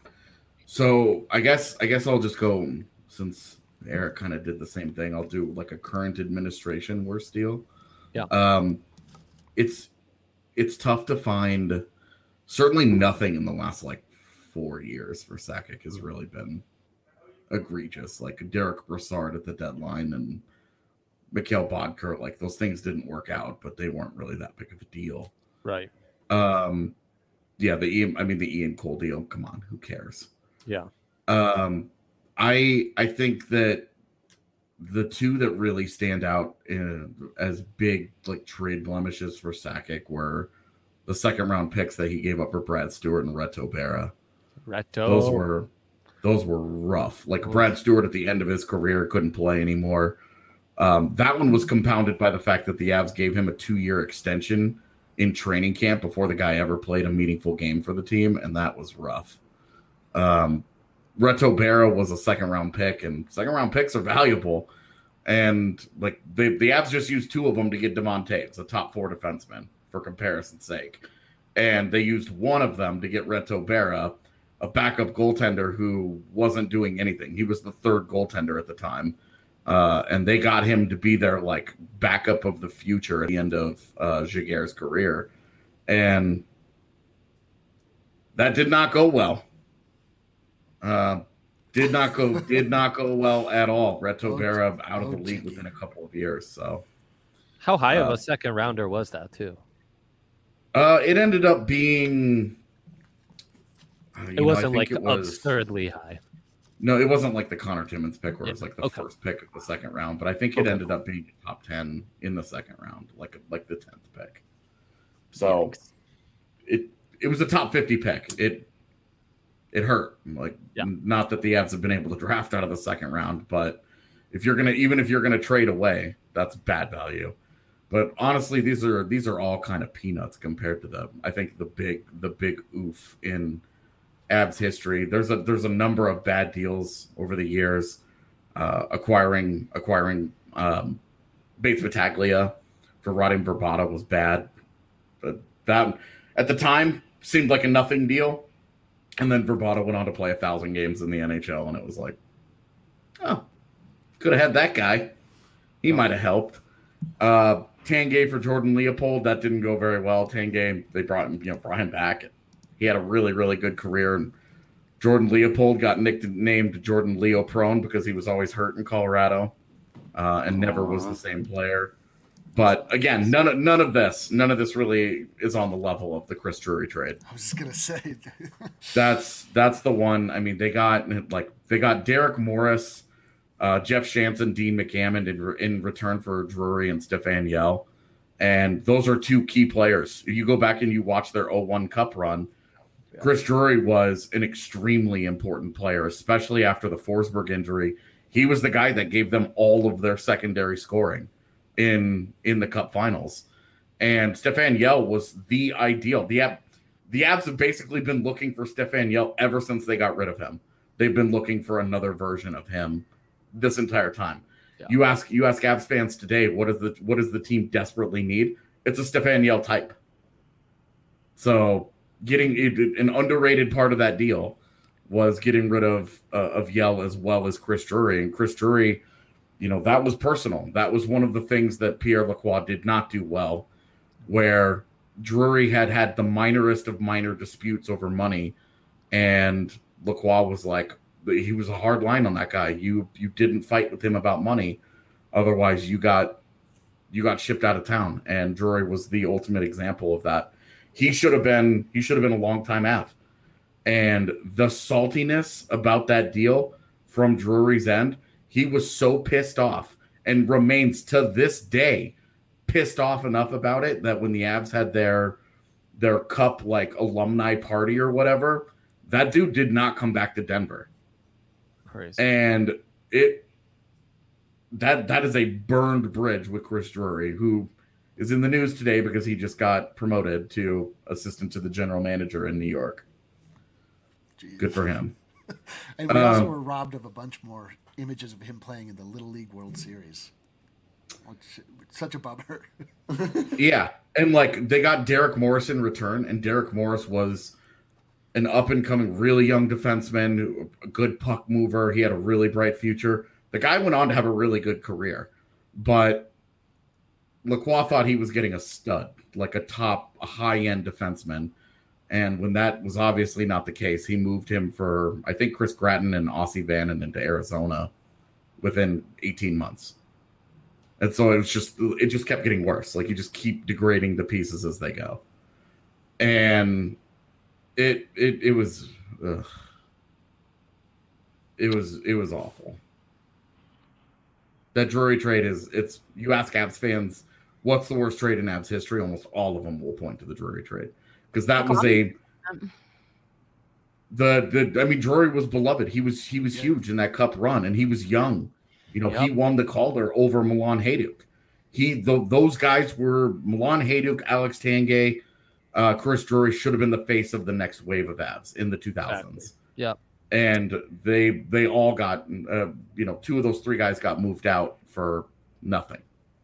So I guess I guess I'll just go since Eric kind of did the same thing. I'll do like a current administration worst deal. Yeah. Um, it's it's tough to find. Certainly nothing in the last like four years for Sakic has really been egregious. Like Derek Brassard at the deadline and Mikhail Bodker, like those things didn't work out, but they weren't really that big of a deal. Right. Um, yeah, the Ian, I mean the Ian Cole deal. Come on, who cares? Yeah. Um, I I think that the two that really stand out in, as big like trade blemishes for Sakic were the second round picks that he gave up for Brad Stewart and Reto Berra. Reto. Those were those were rough. Like Brad Stewart at the end of his career couldn't play anymore. Um, that one was compounded by the fact that the Avs gave him a two-year extension in training camp before the guy ever played a meaningful game for the team, and that was rough. Um, Reto Berra was a second-round pick, and second-round picks are valuable. And like the the Avs just used two of them to get Devon Taves, a top four defenseman, for comparison's sake. And they used one of them to get Reto Berra, a backup goaltender who wasn't doing anything. He was the third goaltender at the time. Uh, and they got him to be their like backup of the future at the end of uh, Jaguar's career. And that did not go well. Uh, did not go did not go well at all. Reto Berra out of the league within a couple of years. So how high uh, of a second rounder was that too? Uh, it ended up being. Uh, it know, wasn't like it was, absurdly high. No, it wasn't like the Connor Timmins pick where Yeah, it was like the okay. first pick of the second round, but I think it Okay. ended up being top ten in the second round, like like the tenth pick. So Yikes. it it was a top fifty pick. It it hurt. Like Yeah. not that the Avs have been able to draft out of the second round, but if you're gonna even if you're gonna trade away, that's bad value. But honestly, these are these are all kind of peanuts compared to the I think the big the big oof in Avs history. There's a there's a number of bad deals over the years. Uh, acquiring acquiring um, Bates Battaglia for Radim Vrbata was bad, but that at the time seemed like a nothing deal. And then Vrbata went on to play a thousand games in the N H L, and it was like, oh, could have had that guy. He might have helped. Uh, Tanguay for Jordan Leopold, that didn't go very well. Tanguay, they brought him, you know, brought him back. He had a really, really good career. And Jordan Leopold got nicknamed Jordan Leo Prone because he was always hurt in Colorado uh, and never was the same player. But again, none of none of this, none of this really is on the level of the Chris Drury trade. I was just gonna say That's that's the one. I mean, they got like they got Derek Morris, uh, Jeff Shanson, Dean McAmmond in, re- in return for Drury and Stefan Yell, and those are two key players. If you go back and you watch their oh one Cup run, yeah. Chris Drury was an extremely important player, especially after the Forsberg injury. He was the guy that gave them all of their secondary scoring in in the Cup Finals, and Stefan Yell was the ideal. The the Avs have basically been looking for Stefan Yell ever since they got rid of him. They've been looking for another version of him this entire time. Yeah. You ask you ask Avs fans today, what is the what does the team desperately need? It's a Stefan Yell type. So getting an underrated part of that deal was getting rid of uh, of Yell as well as Chris Drury, and Chris Drury. You know, that was personal. That was one of the things that Pierre Lacroix did not do well, where Drury had had the minorest of minor disputes over money, and Lacroix was like, he was a hard line on that guy. You you didn't fight with him about money, otherwise you got you got shipped out of town. And Drury was the ultimate example of that. He should have been he should have been a longtime Av, and the saltiness about that deal from Drury's end. He was so pissed off and remains to this day pissed off enough about it that when the Avs had their their cup like alumni party or whatever, that dude did not come back to Denver. Crazy. And it that that is a burned bridge with Chris Drury, who is in the news today because he just got promoted to assistant to the general manager in New York. Jeez. Good for him. And we also um, were robbed of a bunch more images of him playing in the Little League World Series. Which, such a bummer. Yeah, and like they got Derek Morris in return, and Derek Morris was an up-and-coming, really young defenseman, a good puck mover. He had a really bright future. The guy went on to have a really good career, but Lacroix thought he was getting a stud, like a top, a high-end defenseman. And when that was obviously not the case, he moved him for, I think, Chris Gratton and Aussie Vannon into Arizona within eighteen months. And so it was just, it just kept getting worse. Like you just keep degrading the pieces as they go. And it, it, it was, ugh. it was, it was awful. That Drury trade is, it's, you ask Avs fans, what's the worst trade in Avs history? Almost all of them will point to the Drury trade. Because that was a the the I mean Drury was beloved. He was he was yeah. huge in that cup run, and he was young. You know, yep. He won the Calder over Milan Hajduk. He the, those guys were Milan Hajduk, Alex Tanguay, uh, Chris Drury should have been the face of the next wave of Avs in the two thousands. Exactly. Yeah, and they they all got uh, you know two of those three guys got moved out for nothing.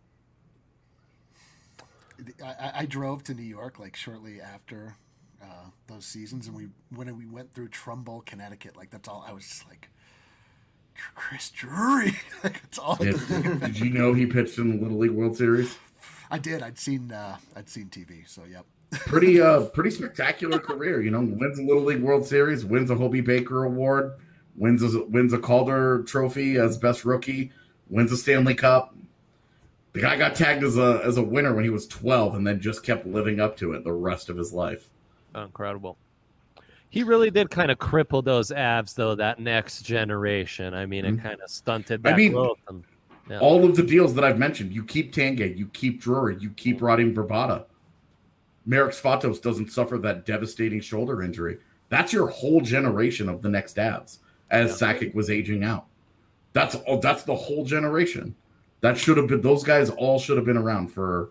I, I drove to New York like shortly after uh, those seasons, and we when we went through Trumbull, Connecticut, like that's all I was just like, Chris Drury. Like, that's all. I Did, did you know he pitched in the Little League World Series? I did. I'd seen uh, I'd seen T V, so yep. Pretty uh pretty spectacular career. You know, wins a Little League World Series, wins a Hobie Baker Award, wins a, wins a Calder Trophy as best rookie, wins a Stanley Cup. The guy got tagged as a as a winner when he was twelve, and then just kept living up to it the rest of his life. Incredible. He really did kind of cripple those Avs, though, that next generation. I mean, Mhm. it kind of stunted that I mean, growth. And, yeah. all of the deals that I've mentioned, you keep Tangay, you keep Drury, you keep Radim Vrbata. Marek Svatos doesn't suffer that devastating shoulder injury. That's your whole generation of the next Avs as yeah. Sakic was aging out. That's oh, that's the whole generation. That should have been, those guys all should have been around for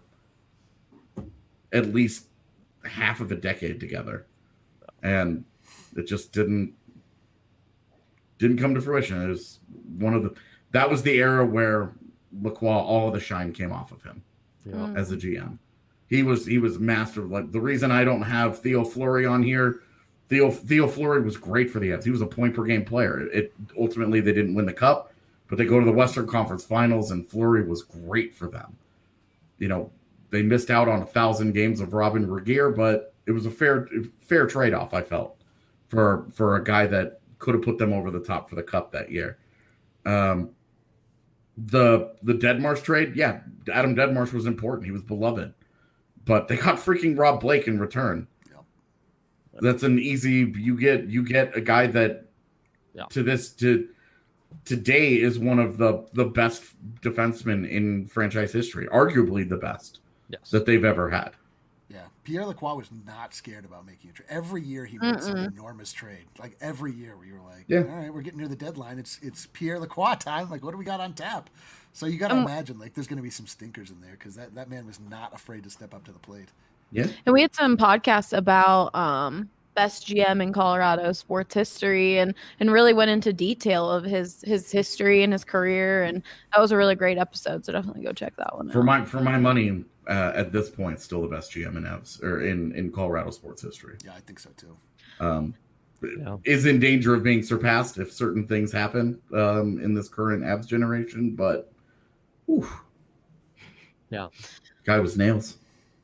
at least half of a decade together. And it just didn't didn't come to fruition. It was one of the that was the era where Lacroix, all of the shine came off of him yeah. as a G M. He was he was master. Like the reason I don't have Theo Fleury on here, Theo Theo Fleury was great for the Avs. He was a point per game player. It ultimately they didn't win the cup, but they go to the Western Conference Finals, and Fleury was great for them. You know, they missed out on a thousand games of Robin Regeer, but it was a fair fair trade off. I felt for for a guy that could have put them over the top for the cup that year. Um, the the Deadmarsh trade, yeah, Adam Deadmarsh was important. He was beloved. But they got freaking Rob Blake in return. Yeah. That's an easy. You get you get a guy that yeah. to this to today is one of the the best defensemen in franchise history, arguably the best yes. that they've ever had. Yeah, Pierre Lacroix was not scared about making a trade. Every year he made Mm-mm. some enormous trade. Like every year we were like, yeah. all right, we're getting near the deadline. It's it's Pierre Lacroix time. Like, what do we got on tap? So you got to um, imagine, like, there's going to be some stinkers in there because that, that man was not afraid to step up to the plate. Yeah. And we had some podcasts about um, best G M in Colorado sports history and, and really went into detail of his, his history and his career. And that was a really great episode. So definitely go check that one out. For my, for my money, uh, at this point, still the best G M in Avs or in, in Colorado sports history. Yeah, I think so too. Um, yeah. Is in danger of being surpassed if certain things happen um, in this current Avs generation, but whew. Yeah, guy was nails.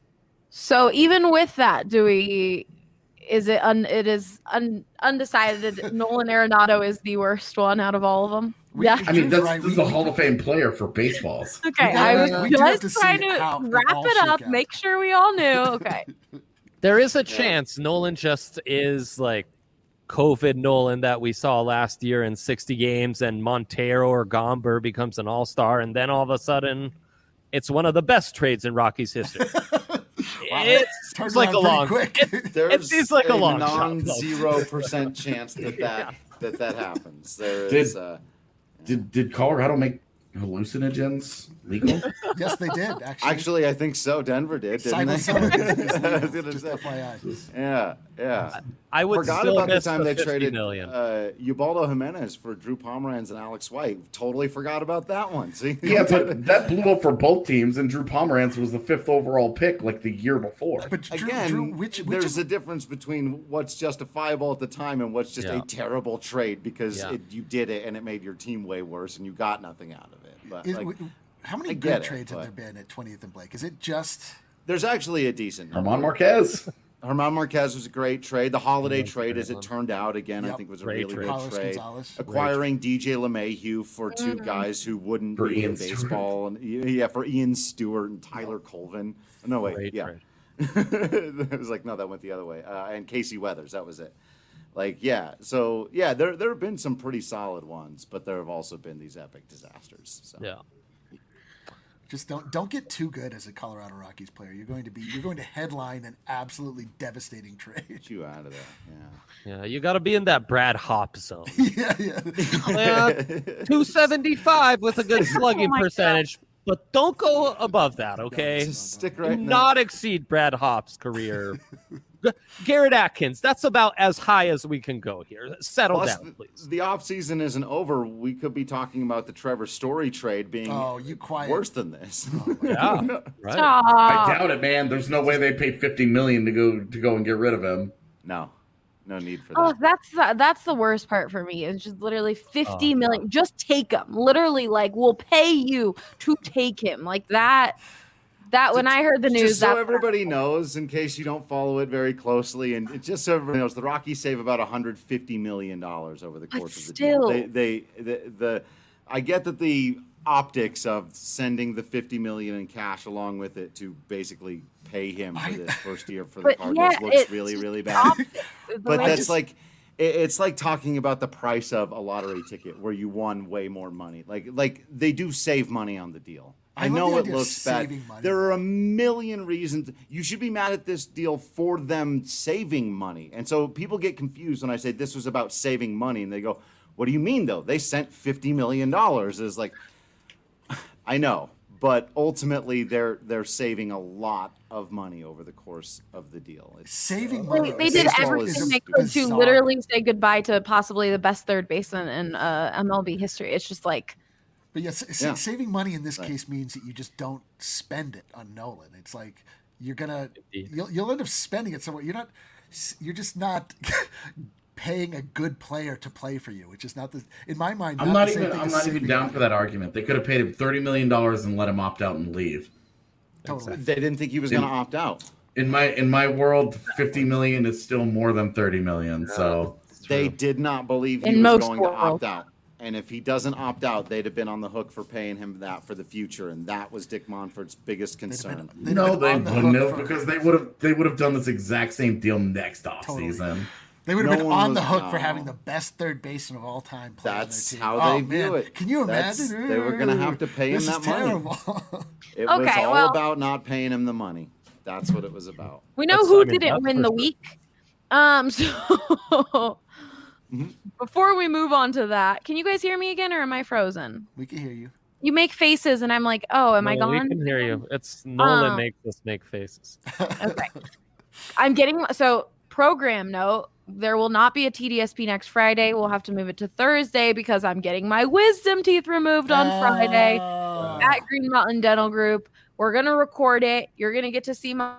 So even with that, do we? Is it un? It is un, undecided. Nolan Arenado is the worst one out of all of them. We, yeah, I mean that's right. this is a Hall of Fame player for baseballs. Okay, I was just trying to wrap it up, make sure we all knew. Okay, there is a chance Nolan just is like COVID Nolan that we saw last year in sixty games, and Montero or Gomber becomes an all-star, and then all of a sudden it's one of the best trades in Rockies history. Wow, it seems like a long quick. It, it seems like a, a long non-zero percent chance that that, yeah. that that happens. There did, is uh, did did Colorado make hallucinogens legal? Yes, they did. Actually, actually, I think so. Denver did, didn't they? Just F Y I. Yeah, yeah. I would forgot still about the miss time the they traded million. uh, Ubaldo Jimenez for Drew Pomeranz and Alex White. Totally forgot about that one. See? Yeah, but that blew up for both teams, and Drew Pomeranz was the fifth overall pick like the year before. But Drew, again, Drew, which, which there's of... a difference between what's justifiable at the time and what's just yeah. a terrible trade because yeah. it, you did it and it made your team way worse and you got nothing out of it. But Is, like, how many I good get trades it, have there been at twentieth and Blake? Is it just there's actually a decent number. Herman Marquez. Herman Marquez was a great trade. The Holiday trade, as it turned out, again, yep. I think was a Great really trade. good Carlos trade. Gonzalez. Acquiring D J LeMahieu for two mm-hmm. guys who wouldn't for be Ian in baseball, and yeah, for Ian Stewart and Tyler Colvin. No wait, great yeah, it was like no, that went the other way. Uh, and Casey Weathers, that was it. Like yeah, so yeah, there there have been some pretty solid ones, but there have also been these epic disasters. So. Yeah. Just don't don't get too good as a Colorado Rockies player. You're going to be you're going to headline an absolutely devastating trade. Get you out of there. Yeah. Yeah, you got to be in that Brad Hop zone. yeah, yeah. yeah. two seventy-five with a good slugging oh percentage, God. But don't go above that, okay? No, no, no, Stick Do right. not exceed Brad Hop's career. Garrett Atkins, that's about as high as we can go here. Settle Plus, down, please. The offseason isn't over. We could be talking about the Trevor Story trade being oh, you quiet. worse than this. Oh, yeah, right. I doubt it, man. There's no way they pay fifty million to go to go and get rid of him. No, no need for oh, that. that's the, that's the worst part for me. It's just literally fifty oh, million. no. Just take him. Literally, like we'll pay you to take him. Like that. That when I heard the news, just so that everybody knows, in case you don't follow it very closely, and it, just so everybody knows, the Rockies save about one hundred fifty million dollars over the course but of the still. deal. They, they, the, the, I get that the optics of sending the fifty million in cash along with it to basically pay him for this first year for the But Cardinals yeah, looks it's really, just really the bad. opposite. The But way that's it's- like it- it's like talking about the price of a lottery ticket where you won way more money. Like like they do save money on the deal. I I, love know the it idea of looks bad. saving money. There are a million reasons you should be mad at this deal for them saving money. And so people get confused when I say this was about saving money, and they go, "What do you mean though? They sent fifty million dollars." Is like, I know, but ultimately they're they're saving a lot of money over the course of the deal. It's, Saving uh, money. They, they did baseball everything is they could to bizarre. literally say goodbye to possibly the best third baseman in uh, M L B history. It's just like, But yes, s- Yeah. saving money in this Right. case means that you just don't spend it on Nolan. It's like you're gonna Indeed. you'll you'll end up spending it somewhere. You're not you're just not paying a good player to play for you, which is not the in my mind. I'm not the same even. thing I'm as not even saving down money. for that argument. They could have paid him thirty million dollars and let him opt out and leave. Totally. they didn't think he was going to opt out. In my in my world, fifty million is still more than thirty million. So They did not believe he In was most going to worlds. opt out. And if he doesn't opt out, they'd have been on the hook for paying him that for the future. And that was Dick Monfort's biggest They'd have been- concern. they'd have no, been they on the wouldn't hook have for- because they would have they would have done this exact same deal next off Totally. season. They would have No been one on was- the hook for no. having the best third baseman of all time. Play That's on their team. how Oh, they view man. it. Can you That's- imagine? they were gonna have to pay him This is that money. terrible. It was Okay, all well- about not paying him the money. That's what it was about. we know That's- who I mean, didn't that's win for the sure. week. Um, so Mm-hmm. before we move on to that, can you guys hear me again, or am I frozen? We can hear you. You make faces, and I'm like, oh, am I No, gone? We can hear you. It's Nolan Um, makes us make faces. Okay. I'm getting so program note. There will not be a T D S P next Friday. We'll have to move it to Thursday because I'm getting my wisdom teeth removed on Friday Oh. at Green Mountain Dental Group. We're gonna record it. You're gonna get to see my.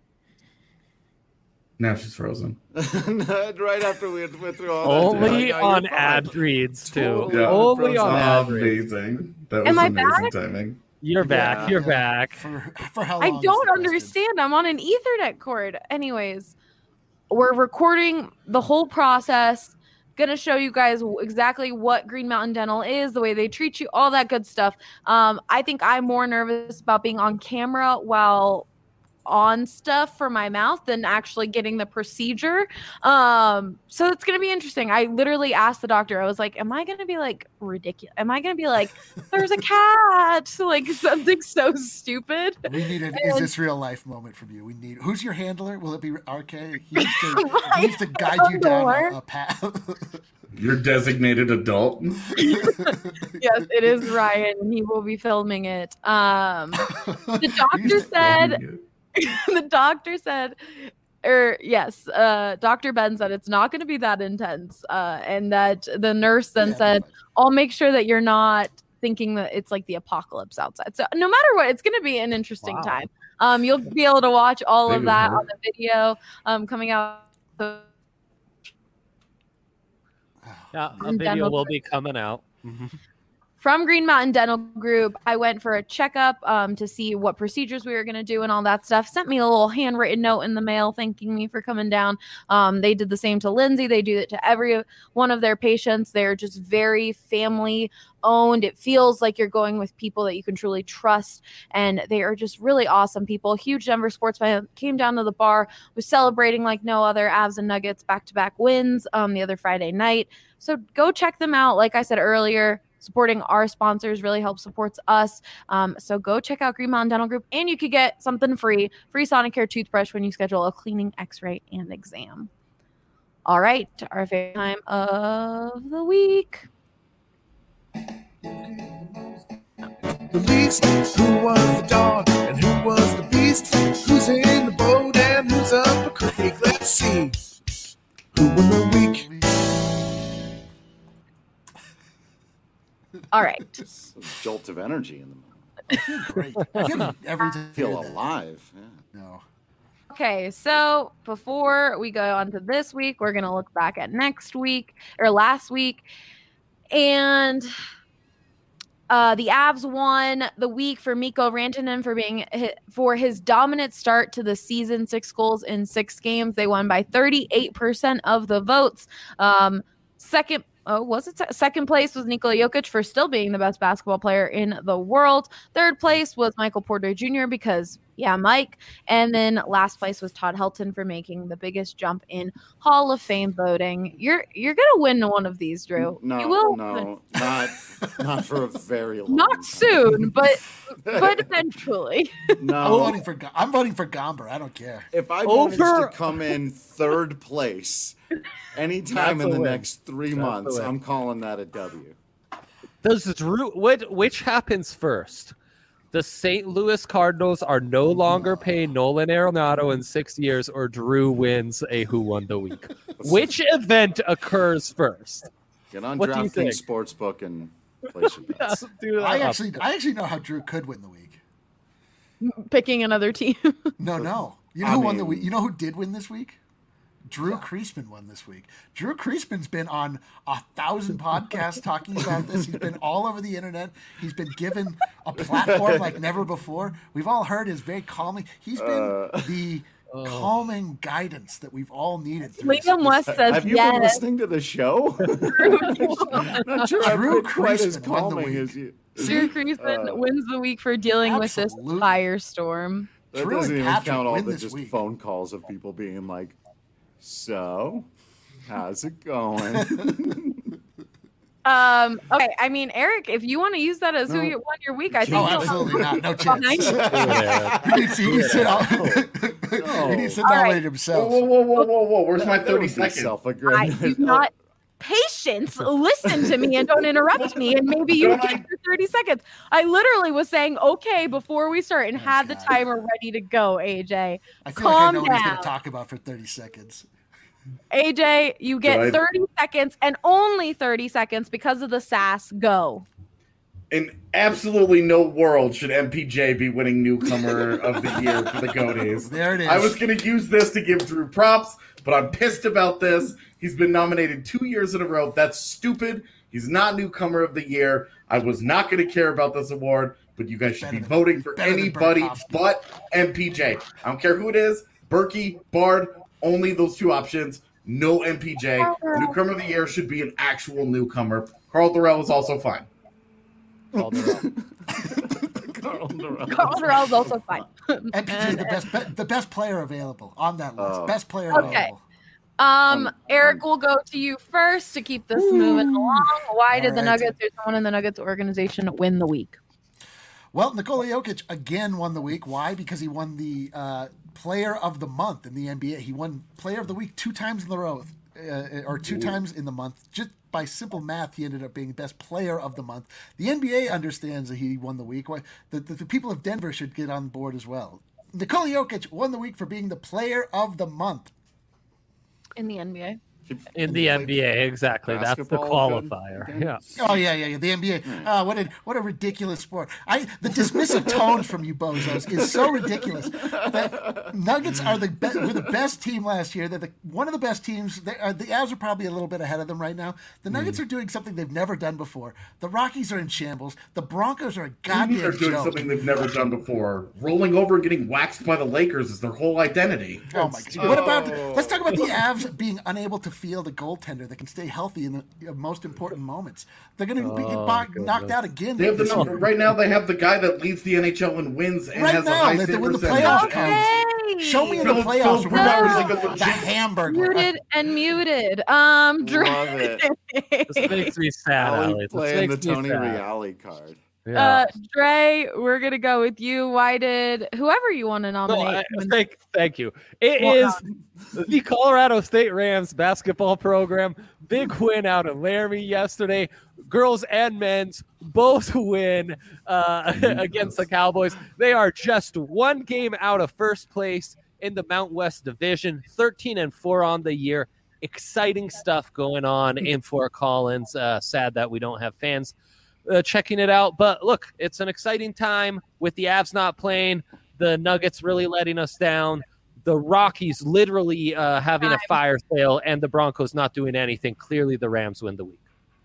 Now she's frozen. Right after we went through all that. Only you're like, on "You're fine." ad reads too. Totally Yeah. Only on ad reads. Amazing. That was Am I amazing back? timing. You're back. Yeah. You're Yeah. back. For, for how I long? is don't the question? understand. I'm on an Ethernet cord. Anyways, we're recording the whole process. Gonna show you guys exactly what Green Mountain Dental is, the way they treat you, all that good stuff. Um, I think I'm more nervous about being on camera while on stuff for my mouth than actually getting the procedure. Um, so it's gonna be interesting. I literally asked the doctor, I was like, am I gonna be like ridiculous? Am I gonna be like, there's a cat? Like something so stupid. We need an is this real life moment from you. We need who's your handler? Will it be R K? He needs to, he needs to guide you down a, a path. You're designated adult. Yes, it is Ryan, and he will be filming it. Um, the doctor said, the doctor said, or yes, uh, Doctor Ben said it's not going to be that intense, uh, and that the nurse then Yeah, said, fine. "I'll make sure that you're not thinking that it's like the apocalypse outside." So no matter what, it's going to be an interesting Wow. time. Um, you'll be able to watch all Big of of that her. on the video um, coming out. Yeah, a And video dental will be coming out. From Green Mountain Dental Group, I went for a checkup um, to see what procedures we were going to do and all that stuff. Sent me a little handwritten note in the mail thanking me for coming down. Um, they did the same to Lindsay. They do it to every one of their patients. They're just very family owned. It feels like you're going with people that you can truly trust, and they are just really awesome people. Huge Denver sports fan. Came down to the bar, was celebrating like no other. Avs and Nuggets back-to-back wins um, the other Friday night. So go check them out. Like I said earlier, supporting our sponsors really helps supports us. Um, so go check out Green Mountain Dental Group, and you could get something free, free Sonicare toothbrush when you schedule a cleaning, x-ray, and exam. All right, our favorite time of the week. The least, who was the dog and who was the beast? Who's in the boat and who's up a creek? Let's see. Who won the week? All right. Just a jolt of energy in the moment. Great. I feel every time. I feel alive. Yeah. No. Okay, so before we go on to this week, we're going to look back at next week or last week. And uh, the Avs won the week for Mikko Rantanen for being for his dominant start to the season, six goals in six games. They won by thirty-eight percent of the votes. Um, second oh, was it se- second place was Nikola Jokic for still being the best basketball player in the world. Third place was Michael Porter Junior because, yeah, Mike. And then last place was Todd Helton for making the biggest jump in Hall of Fame voting. You're you're gonna win one of these, Drew. No, you will no, win. not not for a very long. Not soon, but but eventually. I'm No, voting for Go- I'm voting for Gomber. I don't care. if I manage Over- to come in third place anytime That's in a the win. next three That's a months, win. I'm calling that a W. Does Drew? What? Which happens first? The Saint Louis Cardinals are no longer paying Nolan Arenado in six years, or Drew wins a Who Won the Week. Which event occurs first? Get on What do you think? DraftKings Sportsbook and place your bets. Do that I up. actually I actually know how Drew could win the week. Picking another team. No, no. You know I who won the mean- week? You know who did win this week? Drew Kreisman won this week. Drew Kreisman's been on a thousand podcasts talking about this. He's been all over the internet. He's been given a platform like never before. We've all heard his very calming. He's been Uh, the calming guidance that we've all needed. Through this- Liam West says Have you been yes. listening to the show? Not sure I've Drew been quite as Kreisman won the calming week. as you. Drew Kreisman Uh, wins the week for dealing with absolutely. this firestorm. That Drew doesn't and even Patrick count all win the this just week. phone calls of people being like, "So, how's it going?" Um, okay, I mean, Eric, if you want to use that as who No. you won your week, I think Oh, you'll have absolutely not. No behind chance. you. Yeah. He needs, he needs to, No. he needs to All right. nominate Whoa, himself. whoa, whoa, whoa, whoa, whoa! Where's my That thirty would be seconds? I self-aggrandizing. do not patience. Listen to me and don't interrupt me, and maybe you Don't get I- your thirty seconds. I literally was saying okay before we start and Oh, had the God. timer ready to go. A J, I feel calm like I know what he's going down. to talk about for thirty seconds. A J, you get Right. thirty seconds and only thirty seconds because of the sass. Go. In absolutely no world should M P J be winning newcomer of the year for the Goaties. There it is. I was going to use this to give Drew props, but I'm pissed about this. He's been nominated two years in a row. That's stupid. He's not newcomer of the year. I was not going to care about this award, but you guys should Better be than- voting for better than anybody Burakovsky. but M P J. I don't care who it is. Berkey, Bard, only those two options. No M P J. Newcomer of the year should be an actual newcomer. Carl Durrell is also fine. Calderon. Carl Durrell. Carl Durrell's also fine. M P J, And- the best, be, the best player available on that list. Oh. Best player Okay. available. Um, Um, Eric, we'll go to you first to keep this moving along. Why did the All right. Nuggets or someone in the Nuggets organization win the week? Well, Nikola Jokic again won the week. Why? Because he won the uh, Player of the Month in the N B A. He won Player of the Week two times in the row, uh, or two times in the month. Just by simple math, he ended up being Best Player of the Month. The N B A understands that he won the week. Why? The, the, the people of Denver should get on board as well. Nikola Jokic won the week for being the Player of the Month. In the N B A. In the N B A, exactly. That's the Basketball good qualifier. again? Yeah. Oh yeah, yeah, yeah. The N B A. Ah, what a what a ridiculous sport. I the dismissive tone from you bozos is so ridiculous. The Nuggets are the be- were the best team last year. They're the, one of the best teams. They are, the Avs are probably a little bit ahead of them right now. The Nuggets are doing something they've never done before. The Rockies are in shambles. The Broncos are a They're goddamn doing joke. something they've never done before. Rolling over and getting waxed by the Lakers is their whole identity. Oh my god! What about? Let's talk about the Avs being unable to field a goaltender that can stay healthy in the uh, most important moments. They're going to be Oh, knocked goodness. out again. They have the this number, year. right now. They have the guy that leads the N H L in wins and Right has a now, high that- save when the percentage. playoffs And- come. Show me in the Philip- playoffs Philip where Rivers we're is like a the legit- hamburger. Muted and muted. Um, Dre. Love it. This makes me sad, Ali Alex. This playing the makes me Tony sad. Reale card. Yeah. Uh, Dre, we're gonna go with you. Why did whoever you want to No, nominate? I- win- thank, thank you. It Well, is the Colorado State Rams basketball program. Big win out of Laramie yesterday. Girls and men's both win uh, against the Cowboys. They are just one game out of first place in the Mount West Division, thirteen and four on the year. Exciting stuff going on in Fort Collins. Uh, sad that we don't have fans uh, checking it out. But look, it's an exciting time with the Avs not playing, the Nuggets really letting us down, the Rockies literally uh, having a fire sale, and the Broncos not doing anything. Clearly, the Rams win the week.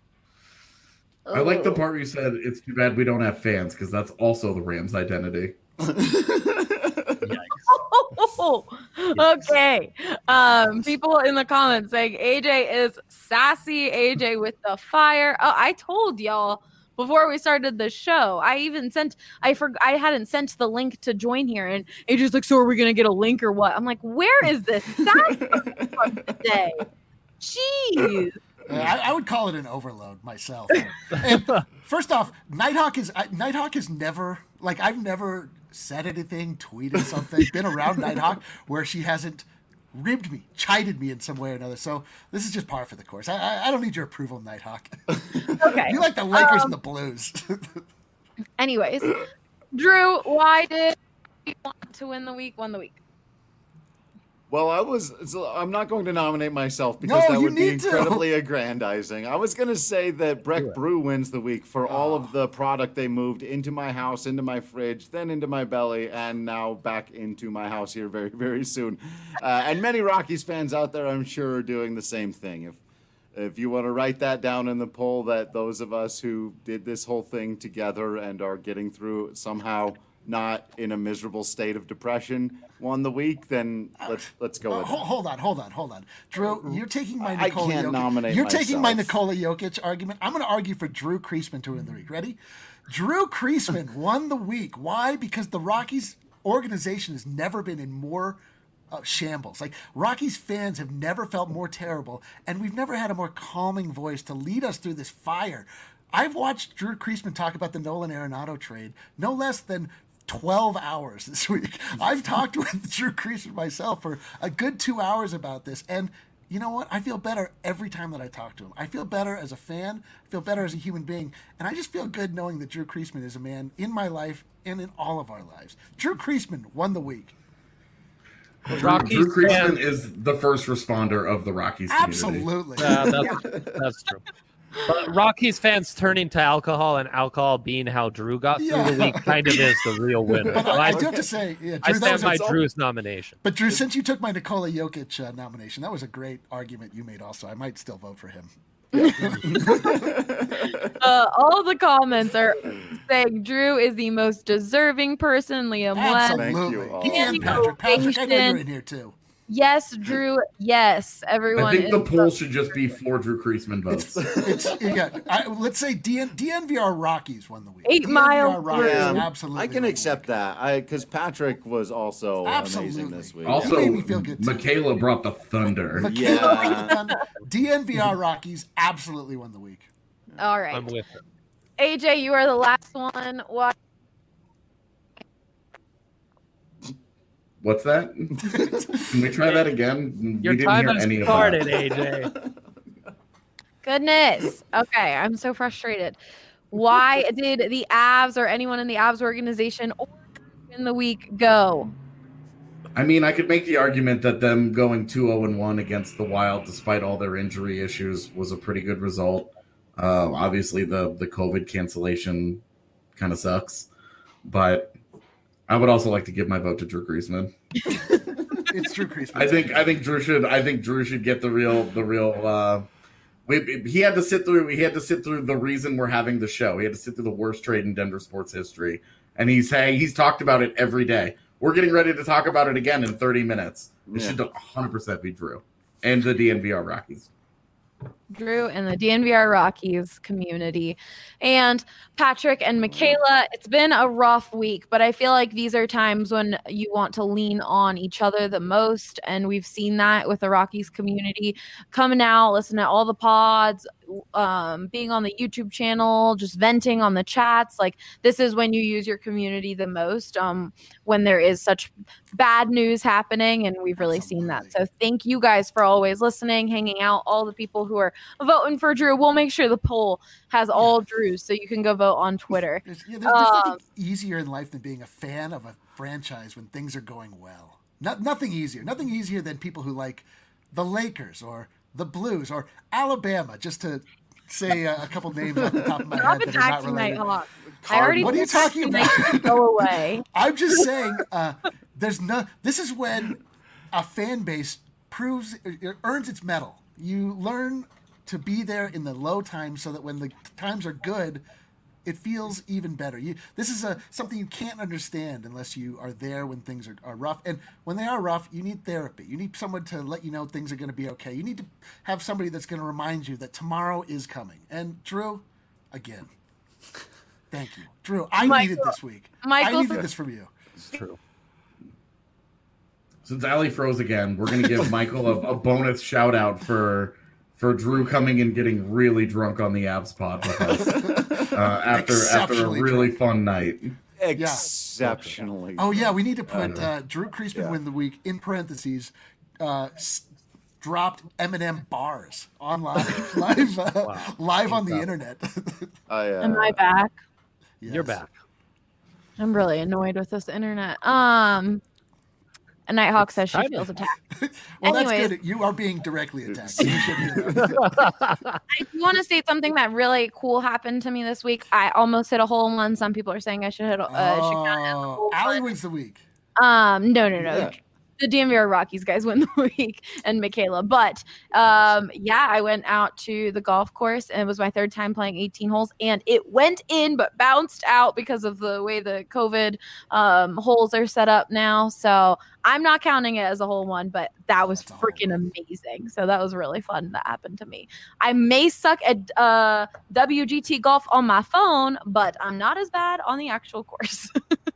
I like the part where you said it's too bad we don't have fans because that's also the Rams' identity. Oh, Okay. Um, people in the comments saying A J is sassy. A J with the fire. Oh, I told y'all before we started the show. I even sent. I for I hadn't sent the link to join here, and A J's like, "So are we gonna get a link or what?" I'm like, "Where is this sass from today?" Jeez. Uh, I, I would call it an overload myself. And first off, Nighthawk is I, Nighthawk is never like I've never said anything, tweeted something, been around Nighthawk where she hasn't ribbed me, chided me in some way or another. So this is just par for the course. I I, I don't need your approval, Nighthawk. Okay. You like the Lakers um, and the Blues. Anyways, Drew, why did you want to win the week? Won the week. Well, I was. So I'm not going to nominate myself because No, that you would be need to. incredibly aggrandizing. I was going to say that Breck Brew wins the week for all of the product they moved into my house, into my fridge, then into my belly, and now back into my house here very, very soon. Uh, and many Rockies fans out there, I'm sure, are doing the same thing. If if you want to write that down in the poll, that those of us who did this whole thing together and are getting through it somehow not in a miserable state of depression won the week, then let's let's go Uh, with hold, it. hold on, hold on, hold on. Drew, you're taking my I Nikola can't Jokic. nominate You're taking my myself. Nikola Jokic argument. I'm going to argue for Drew Kreisman to win the week. Ready? Drew Kreisman won the week. Why? Because the Rockies organization has never been in more uh, shambles. Like, Rockies fans have never felt more terrible, and we've never had a more calming voice to lead us through this fire. I've watched Drew Kreisman talk about the Nolan Arenado trade no less than twelve hours this week. I've talked with Drew Kreisman myself for a good two hours about this, and you know what? I feel better every time that I talk to him. I feel better as a fan, I feel better as a human being, and I just feel good knowing that Drew Kreisman is a man in my life and in all of our lives. Drew Kreisman won the week. Drew, Rockies Drew Kreisman fans- is the first responder of the Rockies community. Absolutely. Yeah, that's, that's true. But Rockies fans turning to alcohol and alcohol being how Drew got through Yeah. the week kind of is the real winner. But So I, I I, do have to say, yeah, Drew, I that stand was by a- Drew's nomination. But Drew, since you took my Nikola Jokic uh, nomination, that was a great argument you made also. I might still vote for him. Uh, all the comments are saying Drew is the most deserving person. Liam West. Thank you Absolutely. all. He and Patrick. Patrick, I know you're in here too. Yes, Drew. Yes, everyone. I think the is- poll should just be for Drew Kreisman votes. It's yeah. I, let's say D N, D N V R Rockies won the week. Eight D N V R Mile Rockies, Yeah, absolutely. I can won the accept week. that. I because Patrick was also amazing Absolutely. this week. Also, made me feel good, too. Michaela brought the thunder. Yeah. D N V R Rockies absolutely won the week. All right. I'm with it. A J, you are the last one. What? What's that? Can we try that again? Your we didn't time hear has any of started, that. A J. Goodness. Okay, I'm so frustrated. Why did the Avs or anyone in the Avs organization or in the week go? I mean, I could make the argument that them going two oh and one against the Wild, despite all their injury issues, was a pretty good result. Uh, obviously, the the COVID cancellation kind of sucks, but I would also like to give my vote to Drew Kreisman. It's Drew Kreisman. I think I think Drew should I think Drew should get the real the real. Uh, we, he had to sit through he had to sit through the reason we're having the show. He had to sit through the worst trade in Denver sports history, and he's saying he's talked about it every day. We're getting ready to talk about it again in thirty minutes. It Yeah. should one hundred percent be Drew and the D N V R Rockies. Drew and the D N V R Rockies community. And Patrick and Michaela, it's been a rough week, but I feel like these are times when you want to lean on each other the most. And we've seen that with the Rockies community coming out, listening to all the pods, um, being on the YouTube channel, just venting on the chats. Like, this is when you use your community the most, um, when there is such bad news happening. And we've really seen that. So thank you guys for always listening, hanging out, all the people who are voting for Drew. We'll make sure the poll has all Drews, so you can go vote on Twitter. There's, yeah, there's, there's Um, nothing easier in life than being a fan of a franchise when things are going well. Not, nothing easier. Nothing easier than people who like the Lakers or the Blues or Alabama, just to say a, a couple names off the top of my Stop head that are not attacking related. Nighthawk. I already What are you told talking they about? can Go away. I'm just saying, uh, there's no. This is when a fan base proves it earns its medal. You learn to be there in the low times, so that when the times are good, it feels even better. You this is a something you can't understand unless you are there when things are, are rough. And when they are rough, you need therapy. You need someone to let you know things are going to be okay. You need to have somebody that's going to remind you that tomorrow is coming. And Drew, again, thank you, Drew. I Michael, needed this week. Michael, I needed this from you. It's true. Since Allie froze again, we're gonna give Michael a, a bonus shout out for for Drew coming and getting really drunk on the Avs pod with us uh, after after a really drunk. fun night. Exceptionally. Oh yeah, we need to put uh, Drew Creasman yeah. win the week in parentheses. Uh, s- dropped M and M bars online, live, uh, wow. live on the internet. I, uh, Am I back? Yes. You're back. I'm really annoyed with this internet. Um. And Nighthawk says she feels attacked. Well, Anyways, that's good. You are being directly attacked. You should be I want to state something that really cool happened to me this week. I almost hit a hole in one. Some people are saying I should hit. Uh, oh, should not hit a hole Allie one. wins the week. Um, no, no, no. Yeah. The D M V R Rockies guys win the week, and Michaela. But um, yeah, I went out to the golf course, and it was my third time playing eighteen holes, and it went in but bounced out because of the way the COVID um, holes are set up now. So I'm not counting it as a hole one, but that was That's freaking amazing. So that was really fun. That happened to me. I may suck at uh, W G T golf on my phone, but I'm not as bad on the actual course.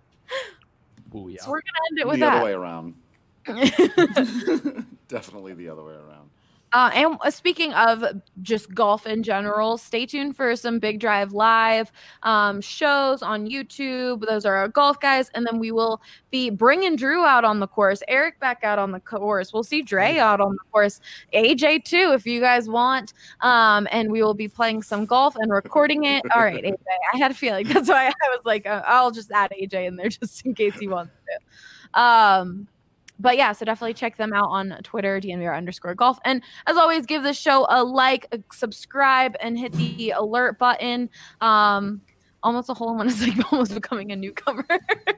Ooh, yeah. So we're gonna end it with the that. other way around. Definitely the other way around. Uh, and uh, speaking of just golf in general, stay tuned for some Big Drive Live um, shows on YouTube. Those are our golf guys. And then we will be bringing Drew out on the course, Eric back out on the course. We'll see Dre out on the course, A J too, if you guys want. Um, and we will be playing some golf and recording it. All right, A J. I had a feeling. That's why I was like, uh, I'll just add A J in there just in case he wants to. Um, But yeah, so definitely check them out on Twitter, D N V R underscore golf. And as always, give this show a like, a subscribe, and hit the alert button. Um, almost a hole in one is like almost becoming a newcomer.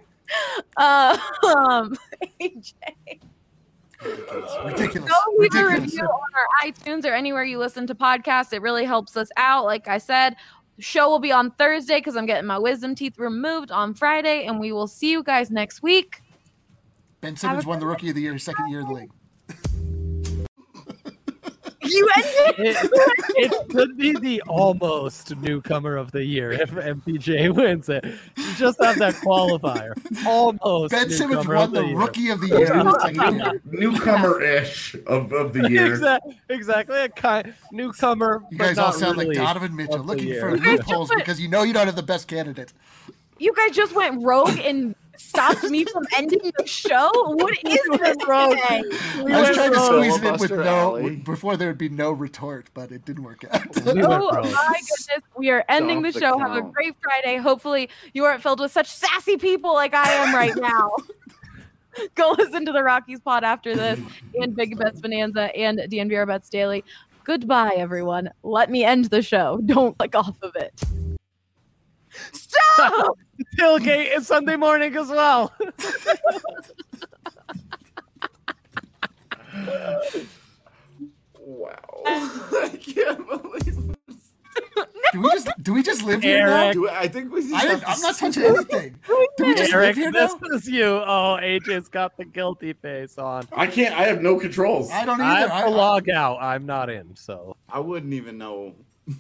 uh, um, A J. Ridiculous. Go leave a Ridiculous. review on our iTunes or anywhere you listen to podcasts. It really helps us out. Like I said, show will be on Thursday because I'm getting my wisdom teeth removed on Friday. And we will see you guys next week. Ben Simmons won the Rookie of the Year, second year in the league. You ended It, it could be the almost newcomer of the year if M P J wins it. You just have that qualifier. Almost. Ben Simmons newcomer won of the year. Rookie of the Year in the second year. Newcomer-ish of, of the year. Exactly, exactly. A kind newcomer. You but guys all not sound really like Donovan Mitchell, of the looking year. for loopholes because you know you don't have the best candidate. You guys just went rogue and stopped me from ending the show? What is this rogue. today? We I was went trying to rogue. squeeze it in with Filibuster no alley. before there would be no retort, but it didn't work out. We went Oh rogue. my goodness. We are ending the Stop the show. Have a count. great Friday. Hopefully you aren't filled with such sassy people like I am right now. Go listen to the Rockies pod after this and Big Bets Bonanza and D N V R Bets Daily. Goodbye, everyone. Let me end the show. Don't click off of it. Stop! Tailgate is Sunday morning as well. Wow. I can't believe it. Do we just do we just live here now? Eric. Do I, I think we just I have didn't, to I'm not see- touching anything. Do we just Eric, live here this now? is you. Oh, A J's got the guilty face on. I can't. I have no controls. I don't I either. have to I, log out. I'm not in, so. I wouldn't even know.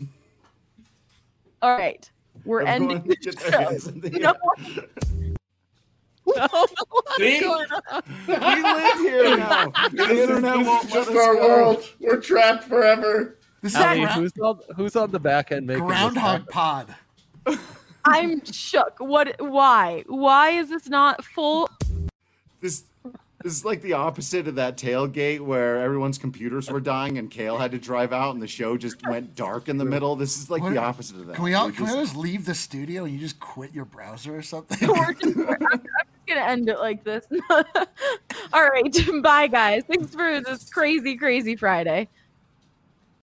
All right. We're ending Everyone the get their hands show. in the You know air. what? No, See? We live here now. The This is, internet this won't is let just us our go. world. We're trapped forever. this is Ali, gra- who's on, who's on the back end making this Groundhog happen? Pod. I'm shook. What? Why? Why is this not full? This this is like the opposite of that tailgate where everyone's computers were dying and Kale had to drive out and the show just went dark in the middle. This is like What- the opposite of that. Can we all We're can we just- all just leave the studio and you just quit your browser or something? We're just, we're, I'm, I'm just gonna end it like this. All right, bye guys. Thanks for this crazy, crazy Friday.